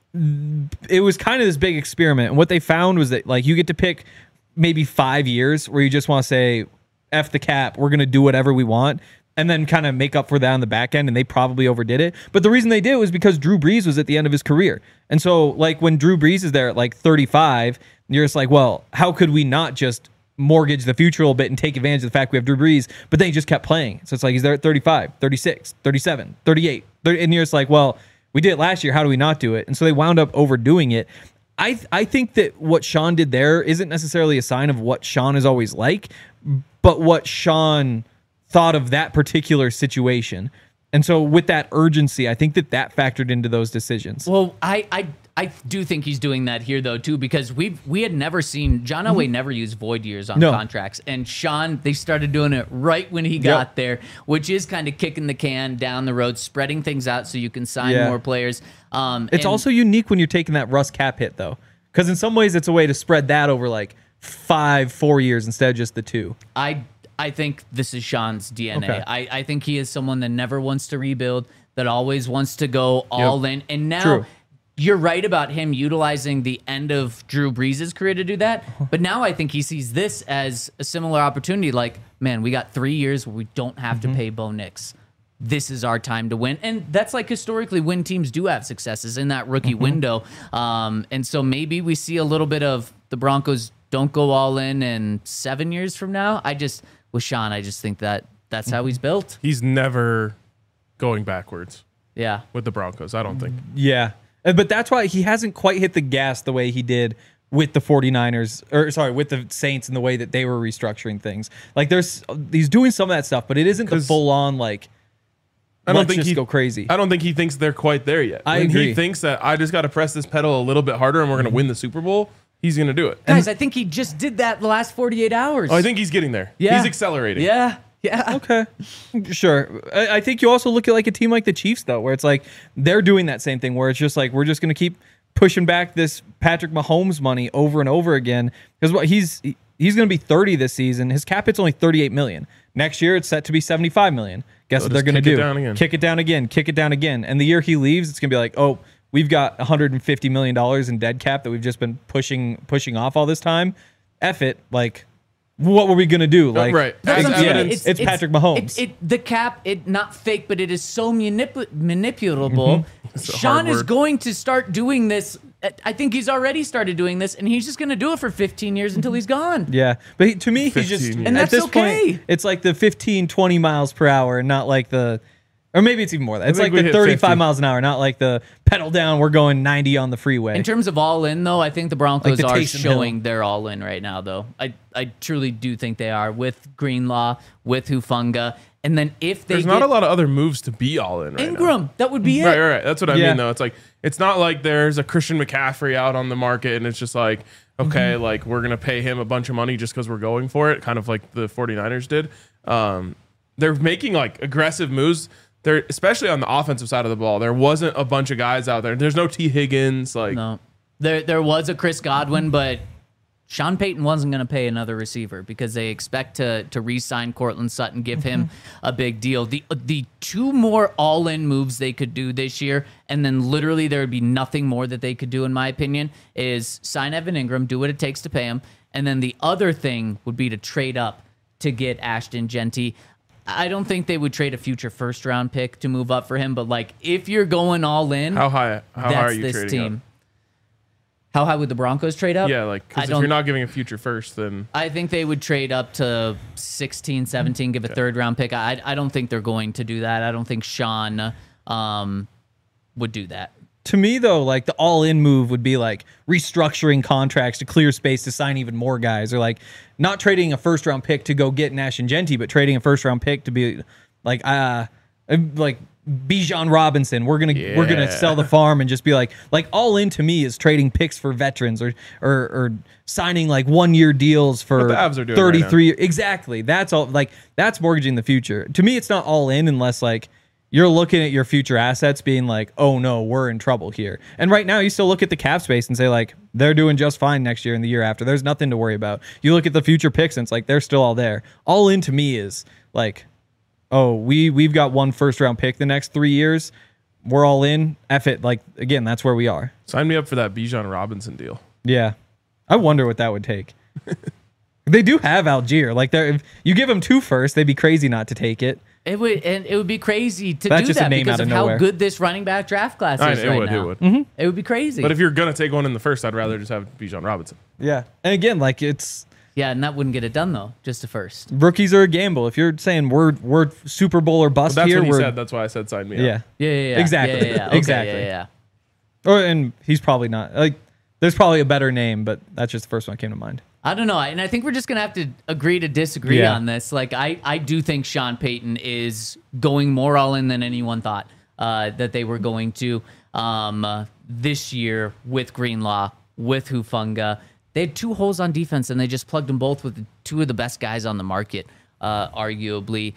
It was kind of this big experiment, and what they found was that you get to pick maybe 5 years where you just want to say, F the cap, we're gonna do whatever we want, and then kind of make up for that on the back end, and they probably overdid it. But the reason they did it was because Drew Brees was at the end of his career. And so when Drew Brees is there at 35, you're just like, well, how could we not just mortgage the future a little bit and take advantage of the fact we have Drew Brees? But then he just kept playing. So it's he's there at 35, 36, 37, 38. And you're just like, well, we did it last year. How do we not do it? And so they wound up overdoing it. I think that what Sean did there isn't necessarily a sign of what Sean is always like, but what Sean thought of that particular situation. And so with that urgency, I think that factored into those decisions. Well, I do think he's doing that here though too, because we had never seen John Elway never used void years on No. contracts, and Sean, they started doing it right when he got there, which is kind of kicking the can down the road, spreading things out so you can sign Yeah. more players. It's also unique when you're taking that Russ cap hit though, because in some ways it's a way to spread that over 4 years instead of just the 2. I think this is Sean's DNA. Okay. I think he is someone that never wants to rebuild, that always wants to go all in. And now True. you're right about him utilizing the end of Drew Brees' career to do that. But now I think he sees this as a similar opportunity. Man, we got 3 years where we don't have to pay Bo Nix. This is our time to win. And that's historically when teams do have successes in that rookie window. And so maybe we see a little bit of the Broncos don't go all in 7 years from now. With Sean, I just think that's how he's built. He's never going backwards Yeah. with the Broncos, I don't think. Yeah. But that's why he hasn't quite hit the gas the way he did with the 49ers, or sorry, with the Saints and the way that they were restructuring things. Like he's doing some of that stuff, but it isn't the full on like, I don't let's think just he go crazy. I don't think he thinks they're quite there yet. I When agree. he thinks that I just got to press this pedal a little bit harder and we're going to win the Super Bowl, he's going to do it. Guys, I think he just did that the last 48 hours. Oh, I think he's getting there. Yeah. He's accelerating. Yeah. Yeah. Okay, sure. I think you also look at like a team like the Chiefs though, where it's like they're doing that same thing, where it's just like we're just going to keep pushing back this Patrick Mahomes money over and over again because what he's going to be 30 this season. His cap hit's only 38 million. Next year it's set to be 75 million. Guess what they're going to do? Kick it down again. Kick it down again. And the year he leaves, it's going to be like, oh, we've got $150 million in dead cap that we've just been pushing off all this time. F it, like. What were we gonna do? Like, right. That's what I'm saying. it's Patrick Mahomes. The cap, not fake, but it is so manipulable. It's a Sean hard is word. going to start doing this. I think he's already started doing this, and he's just going to do it for 15 years until he's gone. Yeah, but to me, he's just 15 And at that's this okay. point, it's like the 15, 20 miles per hour, and not like the, or maybe it's even more. It's think like we the hit 35 50. miles an hour, not like the pedal down. We're going 90 on the freeway. In terms of all in, though, I think the Broncos Like the are Taysom showing Hill. they're all in right now, though. I truly do think they are with Greenlaw, with Hufanga, and then if they There's not a lot of other moves to be all in right Ingram, now. that would be it. Right. That's what I Yeah. mean, though. It's like it's not like there's a Christian McCaffrey out on the market and it's just like, okay, like we're gonna pay him a bunch of money just because we're going for it, kind of like the 49ers did. They're making like aggressive moves. They're especially on the offensive side of the ball. There wasn't a bunch of guys out there. There's no T. Higgins. Like No, there was a Chris Godwin, but Sean Payton wasn't going to pay another receiver because they expect to re-sign Cortland Sutton, give him a big deal. The two more all-in moves they could do this year, and then literally there would be nothing more that they could do, in my opinion, is sign Evan Ingram, do what it takes to pay him, and then the other thing would be to trade up to get Ashton Genty. I don't think they would trade a future first-round pick to move up for him, but like if you're going all in, how high that's are you this trading team. up? How high would the Broncos trade up? Yeah, like I because if don't- you're not giving a future first, then I think they would trade up to 16, 17, give a third round pick. I don't think they're going to do that. I don't think Sean would do that. to me though, like the all-in move would be like restructuring contracts to clear space to sign even more guys, or like not trading a first-round pick to go get Nash and Genty, but trading a first-round pick to be like Bijan Robinson. We're gonna sell the farm and just be like all in to me is trading picks for veterans or signing like 1 year deals for What the Avs are doing 33. Exactly. That's all. Like that's mortgaging the future. To me, it's not all in unless like you're looking at your future assets being like, oh no, we're in trouble here. And right now you still look at the cap space and say like they're doing just fine next year and the year after. There's nothing to worry about. You look at the future picks and it's like they're still all there. All in to me is like, oh, we've got one first round pick the next 3 years. We're all in. F it. Like again, that's where we are. sign me up for that Bijan Robinson deal. Yeah. I wonder what that would take. They do have Algier. Like if you give them 2 first, they'd be crazy not to take it. It would be crazy to That's do just a that name because out of of how nowhere. good this running back draft class is It right would. now. It would. It would be crazy. But if you're gonna take one in the first, I'd rather just have Bijan Robinson. Yeah. And again, like it's yeah, and that wouldn't get it done though. Just a first. rookies are a gamble. If you're saying we're Super Bowl or bust That's here, what he we're said. That's why I said sign me yeah. up. Yeah. Exactly. Yeah. Okay, Exactly. Yeah. Or and he's probably not like there's probably a better name, but that's just the first one that came to mind. I don't know, and I think we're just gonna have to agree to disagree Yeah. on this. Like, I do think Sean Payton is going more all in than anyone thought that they were going to this year with Greenlaw, with Hufanga. They had 2 holes on defense, and they just plugged them both with 2 of the best guys on the market, arguably.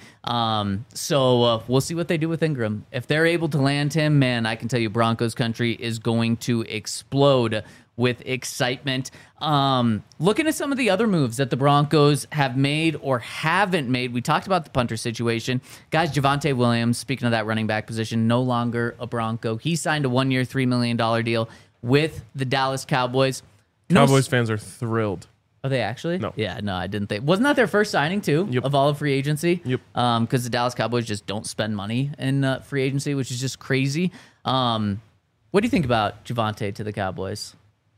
So we'll see what they do with Ingram. If they're able to land him, man, I can tell you Broncos country is going to explode with excitement. Looking at some of the other moves that the Broncos have made or haven't made, we talked about the punter situation. Guys, Javonte Williams, speaking of that running back position, no longer a Bronco. He signed a 1-year, $3 million deal with the Dallas Cowboys. Cowboys fans are thrilled. Are they actually? No. Yeah, no, I didn't think. Wasn't that their first signing, too, Yep. of all of free agency? Yep. Because the Dallas Cowboys just don't spend money in free agency, which is just crazy. What do you think about Javonte to the Cowboys?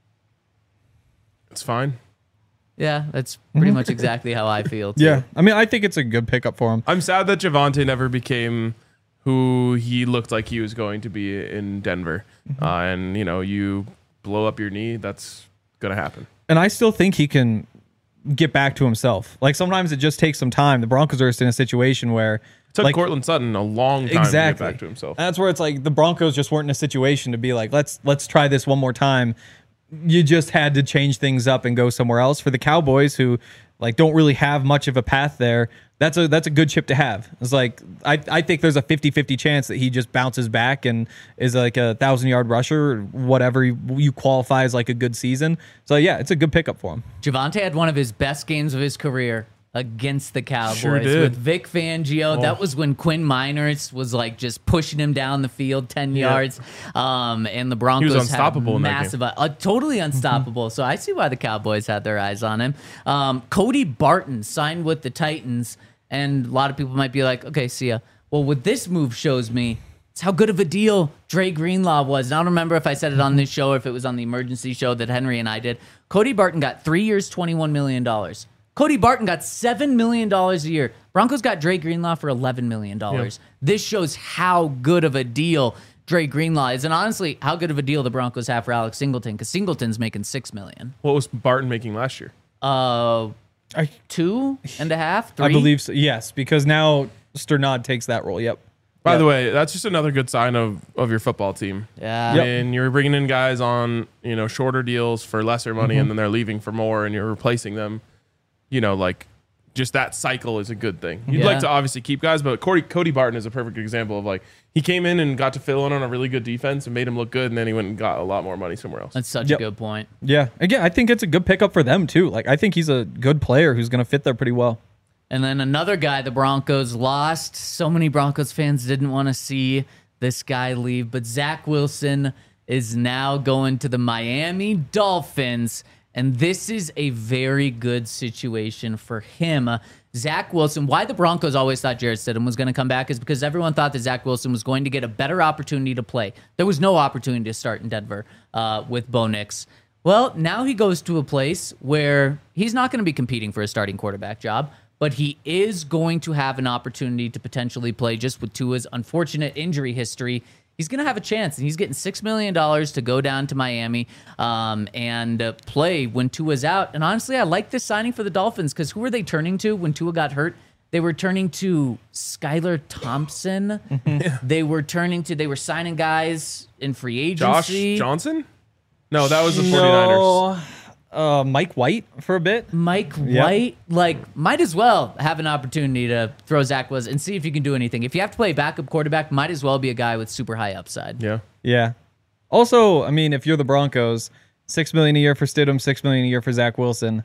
It's fine. Yeah, that's pretty much exactly how I feel, too. Yeah. I mean, I think it's a good pickup for him. I'm sad that Javonte never became who he looked like he was going to be in Denver. And, you blow up your knee, that's going to happen. And I still think he can get back to himself. Like sometimes it just takes some time. The Broncos are just in a situation where It took like, Cortland Sutton a long time to get back to himself. And that's where it's like the Broncos just weren't in a situation to be like, let's try this one more time. You just had to change things up and go somewhere else. For the Cowboys, who like don't really have much of a path there, that's a good chip to have. It's like I think there's a 50-50 chance that he just bounces back and is like a 1,000-yard rusher or whatever you qualify as like a good season. So yeah, it's a good pickup for him. Javonte had one of his best games of his career against the Cowboys Sure did. with Vic Fangio. That was when Quinn Miners was like just pushing him down the field 10 yards. And the Broncos He was unstoppable had in that massive, totally unstoppable. So I see why the Cowboys had their eyes on him. Cody Barton signed with the Titans, and a lot of people might be like, okay, see ya. Well, what this move shows me, it's how good of a deal Dre Greenlaw was. And I don't remember if I said it on this show or if it was on the emergency show that Henry and I did. Cody Barton got 3 years, $21 million. Cody Barton got $7 million a year. Broncos got Dre Greenlaw for $11 million. Yep. This shows how good of a deal Dre Greenlaw is. And honestly, how good of a deal the Broncos have for Alex Singleton, because Singleton's making $6 million. What was Barton making last year? 2.5, 3? I believe so. Yes, because now Sternad takes that role. Yep. By the way, that's just another good sign of your football team. Yeah. And you're bringing in guys on, shorter deals for lesser money, and then they're leaving for more, and you're replacing them. Just that cycle is a good thing. You'd Yeah. like to obviously keep guys, but Cody Barton is a perfect example of like he came in and got to fill in on a really good defense and made him look good, and then he went and got a lot more money somewhere else. That's such Yep. a good point. Yeah. Again, I think it's a good pickup for them too. Like I think he's a good player who's going to fit there pretty well. And then another guy the Broncos lost. So many Broncos fans didn't want to see this guy leave, but Zach Wilson is now going to the Miami Dolphins, and this is a very good situation for him. Zach Wilson, why the Broncos always thought Jarrett Stidham was going to come back is because everyone thought that Zach Wilson was going to get a better opportunity to play. There was no opportunity to start in Denver with Bo Nix. Well, now he goes to a place where he's not going to be competing for a starting quarterback job, but he is going to have an opportunity to potentially play just with Tua's unfortunate injury history. He's going to have a chance, and he's getting $6 million to go down to Miami and play when Tua's out. And honestly, I like this signing for the Dolphins because who were they turning to when Tua got hurt? They were turning to Skylar Thompson. They were signing guys in free agency. Josh Johnson? No, that was the 49ers. Mike White for a bit. Mike Yep. White, might as well have an opportunity to throw Zach Wilson and see if you can do anything. If you have to play backup quarterback, might as well be a guy with super high upside. Yeah. Yeah. Also, I mean, if you're the Broncos, $6 million a year for Stidham, $6 million a year for Zach Wilson.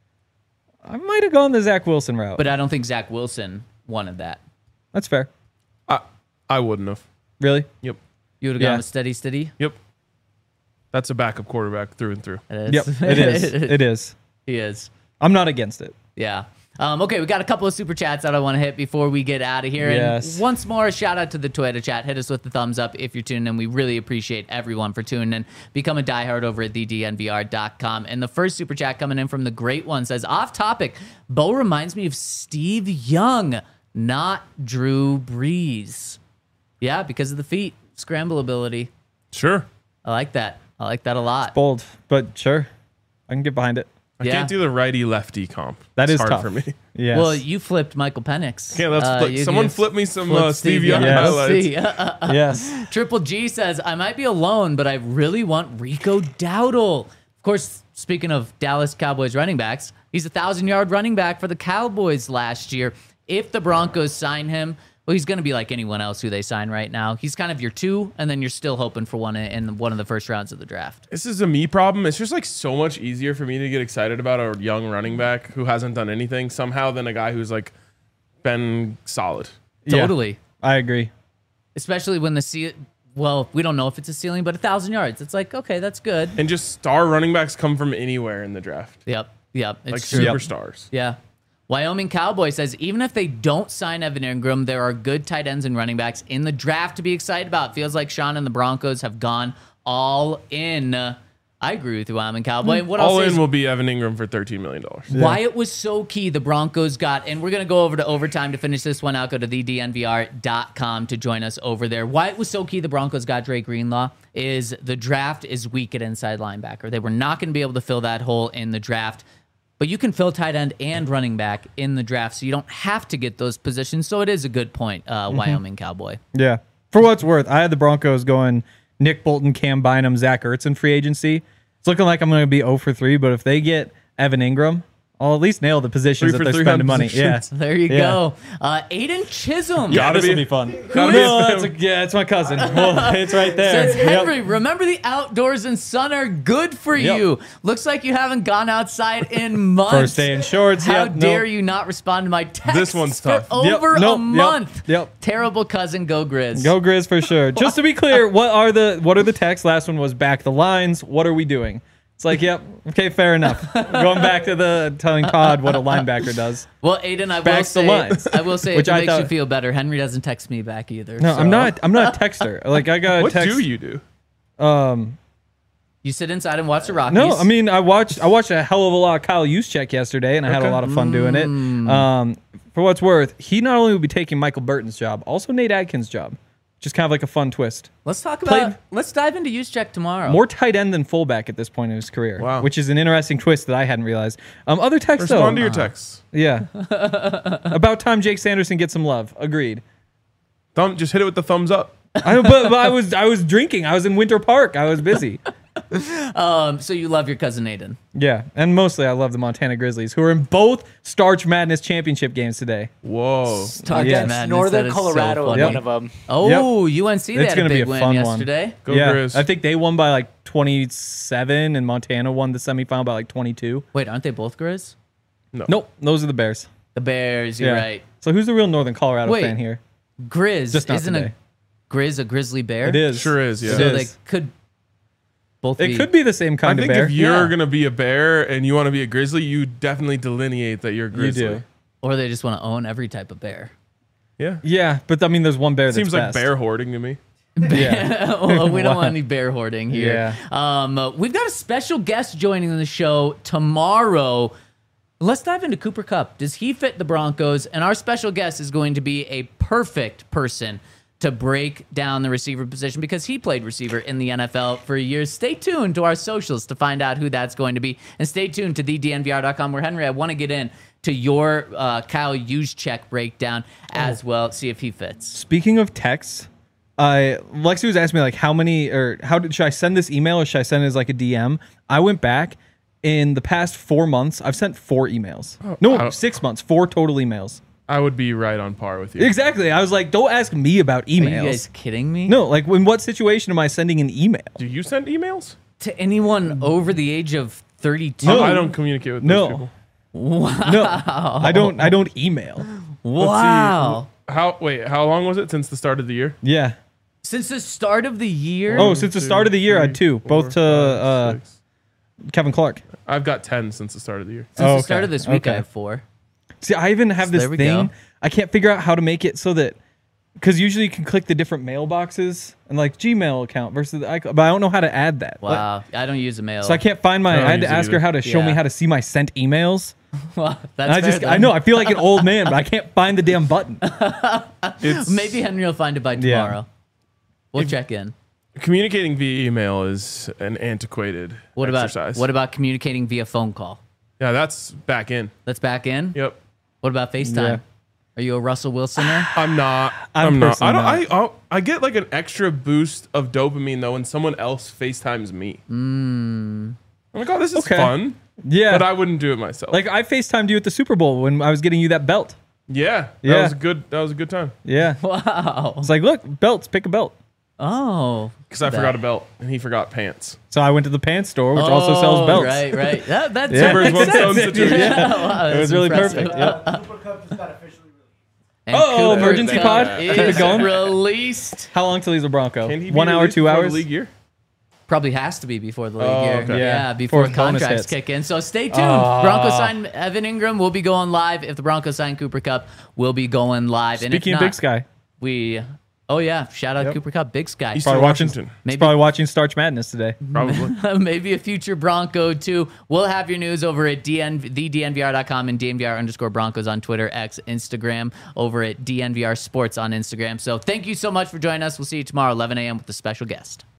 I might have gone the Zach Wilson route. But I don't think Zach Wilson wanted that. That's fair. I wouldn't have. Really? Yep. You would have Yeah. gone with steady. Yep. That's a backup quarterback through and through. It Yep. is. It is. It is. He is. I'm not against it. Yeah. Okay, we got a couple of super chats that I want to hit before we get out of here. Yes. And once more, shout out to the Twitter chat. Hit us with the thumbs up if you're tuning in. We really appreciate everyone for tuning in. Become a diehard over at thednvr.com. And the first super chat coming in from the great one says, off topic, Bo reminds me of Steve Young, not Drew Brees. Yeah, because of the feet, scramble ability. Sure. I like that. I like that a lot. Bold, but sure. I can get behind it. I Yeah. can't do the righty-lefty comp. That It's is hard tough for me. Yes. Well, you flipped Michael Penix. Yeah, let's flip. You Someone can flip me some flip Steve Young Young. highlights. See. yes. Triple G says, I might be alone, but I really want Rico Dowdle. Of course, speaking of Dallas Cowboys running backs, he's a 1,000-yard running back for the Cowboys last year. If the Broncos sign him, well, he's going to be like anyone else who they sign right now. He's kind of your 2, and then you're still hoping for one in one of the first rounds of the draft. This is a me problem. It's just like so much easier for me to get excited about a young running back who hasn't done anything somehow than a guy who's like been solid. Yeah. Totally. I agree. Especially when we don't know if it's a ceiling, but 1,000 yards. It's like, okay, that's good. And just star running backs come from anywhere in the draft. Yep. It's Like true. superstars. Yeah. Wyoming Cowboy says, even if they don't sign Evan Ingram, there are good tight ends and running backs in the draft to be excited about. Feels like Sean and the Broncos have gone all in. I I agree with you, Wyoming Cowboy. And what All I'll say in is will be Evan Ingram for $13 million. why it was so key the Broncos got, and we're going to go over to overtime to finish this one out. Go to thednvr.com to join us over there. Why it was so key the Broncos got Dre Greenlaw is the draft is weak at inside linebacker. They were not going to be able to fill that hole in the draft, but you can fill tight end and running back in the draft, so you don't have to get those positions. So it is a good point, Wyoming Cowboy. Yeah. For what it's worth, I had the Broncos going Nick Bolton, Cam Bynum, Zach Ertz in free agency. It's looking like I'm going to be 0 for 3, but if they get Evan Ingram, I'll at least nail the positions 3 that for they're 3 on spending money. Yeah. positions. There you Yeah. go. Aiden Chisholm. Yeah. Gotta This will be- be fun. Gotta No, be- it's my cousin. Well, it's right there. Says Yep. Henry, remember the outdoors and sun are good for Yep. you. Looks like you haven't gone outside in months. First day in shorts. How Yep, dare nope. you not respond to my text? This one's for tough. Yep, over nope, a yep, month. yep. Terrible cousin, go Grizz. Go Grizz for sure. Just to be clear, what are the texts? Last one was back the lines. What are we doing? It's like, yep, okay, fair enough. Going back to the telling Todd what a linebacker does. Well, Aiden, I will Back the say, lines. I will say, Which if it I makes you thought- feel better, Henry doesn't text me back either. No, so- I'm not a texter. Like I got a What text. do you do? You sit inside and watch the Rockies. No, I mean I watched a hell of a lot of Kyle Juszczyk yesterday, and I had a Okay. lot of fun doing it. For what's worth, he not only will be taking Michael Burton's job, also Nate Adkins' job, which is kind of like a fun twist. let's talk Played- about. Let's dive into Juszczyk tomorrow. More tight end than fullback at this point in his career, Wow. which is an interesting twist that I hadn't realized. Other texts though, Respond to your texts. yeah, about time Jake Sanderson gets some love. Agreed. Just hit it with the thumbs up. But I was drinking. I was in Winter Park. I was busy. So you love your cousin Aiden. Yeah, and mostly I love the Montana Grizzlies, who are in both Starch Madness championship games today. Whoa. Talk Yeah. to Madness, that Northern is so Colorado funny. in one of them. Oh, UNC, they It's had a gonna be big a win fun one. yesterday. Go yeah, Grizz. I think they won by like 27, and Montana won the semifinal by like 22. Wait, aren't they both Grizz? Nope, those are the Bears. The Bears, you're Yeah. right. So who's the real Northern Colorado Wait. fan here? Grizz, Just not isn't today. a Grizz a grizzly bear? It is. Sure is, yeah. It So is. they could both It be. could be the same I kind of think bear. if you're Yeah. going to be a bear and you want to be a grizzly, you definitely delineate that you're a You grizzly. do. Or they just want to own every type of bear. Yeah. Yeah, but I mean, there's one bear that's Seems like best. bear hoarding to me. Yeah. Well, we don't Wow. want any bear hoarding here. Yeah. We've got a special guest joining the show tomorrow. Let's dive into Cooper Kupp. Does he fit the Broncos? And our special guest is going to be a perfect person to break down the receiver position because he played receiver in the NFL for years. Stay tuned to our socials to find out who that's going to be. And stay tuned to thednvr.com where, Henry, I want to get in to your Kyle Juszczyk breakdown as well, see if he fits. Speaking of texts, Lexi was asking me like should I send this email or should I send it as like a DM? I went back in the past 4 months. I've sent 4 emails. No, 6 months. 4 total emails. I would be right on par with you. Exactly. I was like, don't ask me about Are you emails. guys kidding me? No, like in what situation am I sending an email? Do you send emails? To anyone over the age of 32? No. I don't communicate with those No. people. No, I don't email. Let's Wow. see. How long was it since the start of the year? Yeah. Since the start of the year? Oh, since the start of the year, I had 2, both to 6. Kevin Clark. I've got 10 since the start of the year. Since Oh, the start okay. of this week, I Okay. have 4. See, I even have So this there we thing. go. I can't figure out how to make it so that because usually you can click the different mailboxes and like Gmail account versus the iCloud, but I don't know how to add that. Like, Wow. I don't use a mail. so I can't find my. I don't I had to use it ask her either. how to show me Yeah. how to see my sent emails. Well, And I that's fair I then. know I feel like an old man, but I can't find the damn button. It's Maybe Henry will find it by Yeah. tomorrow. We'll check in. communicating via email is an antiquated What exercise. about communicating via phone call? Yeah, that's back in. That's back in? Yep. What about FaceTime? Yeah. Are you a Russell Wilsoner? I'm not. I'm I'm not. I personally don't. I get like an extra boost of dopamine though when someone else FaceTimes me. I'm like, oh, this is Okay. fun, Yeah, but I wouldn't do it myself. like I FaceTimed you at the Super Bowl when I was getting you that belt. yeah, that Yeah. was good. That was a good time Yeah, Wow. it's like look, belts, pick a belt. Oh. because I forgot a belt and he forgot pants. So I went to the pants store, which also sells belts. Right, right. That's Yeah. Two birds, one stone sense. situation. Yeah, wow, It was that's really impressive. perfect. Yep. Super Cup just got officially released. And Oh, Cooper emergency Kupp pod? Keep it is going? released. How long till he's a Bronco? Can he be 1 hour, released 2 before the hours? league year? Probably has to be before the league Oh, year. okay. Yeah, Yeah. before Before bonus contracts hits. kick in. So stay tuned. Broncos sign Evan Ingram. We'll be going live. If the Broncos sign Cooper Kupp, we'll be going live. And if Speaking of not, Big Sky, we Oh yeah, shout out Yep. Cooper Cup, Big Sky. He's Probably Eastern watching. Washington. He's probably watching Starch Madness today. Probably. Maybe a future Bronco too. We'll have your news over at thednvr.com and DNVR_Broncos on Twitter, X, Instagram, over at DNVR Sports on Instagram. So thank you so much for joining us. We'll see you tomorrow, 11 a.m. with a special guest.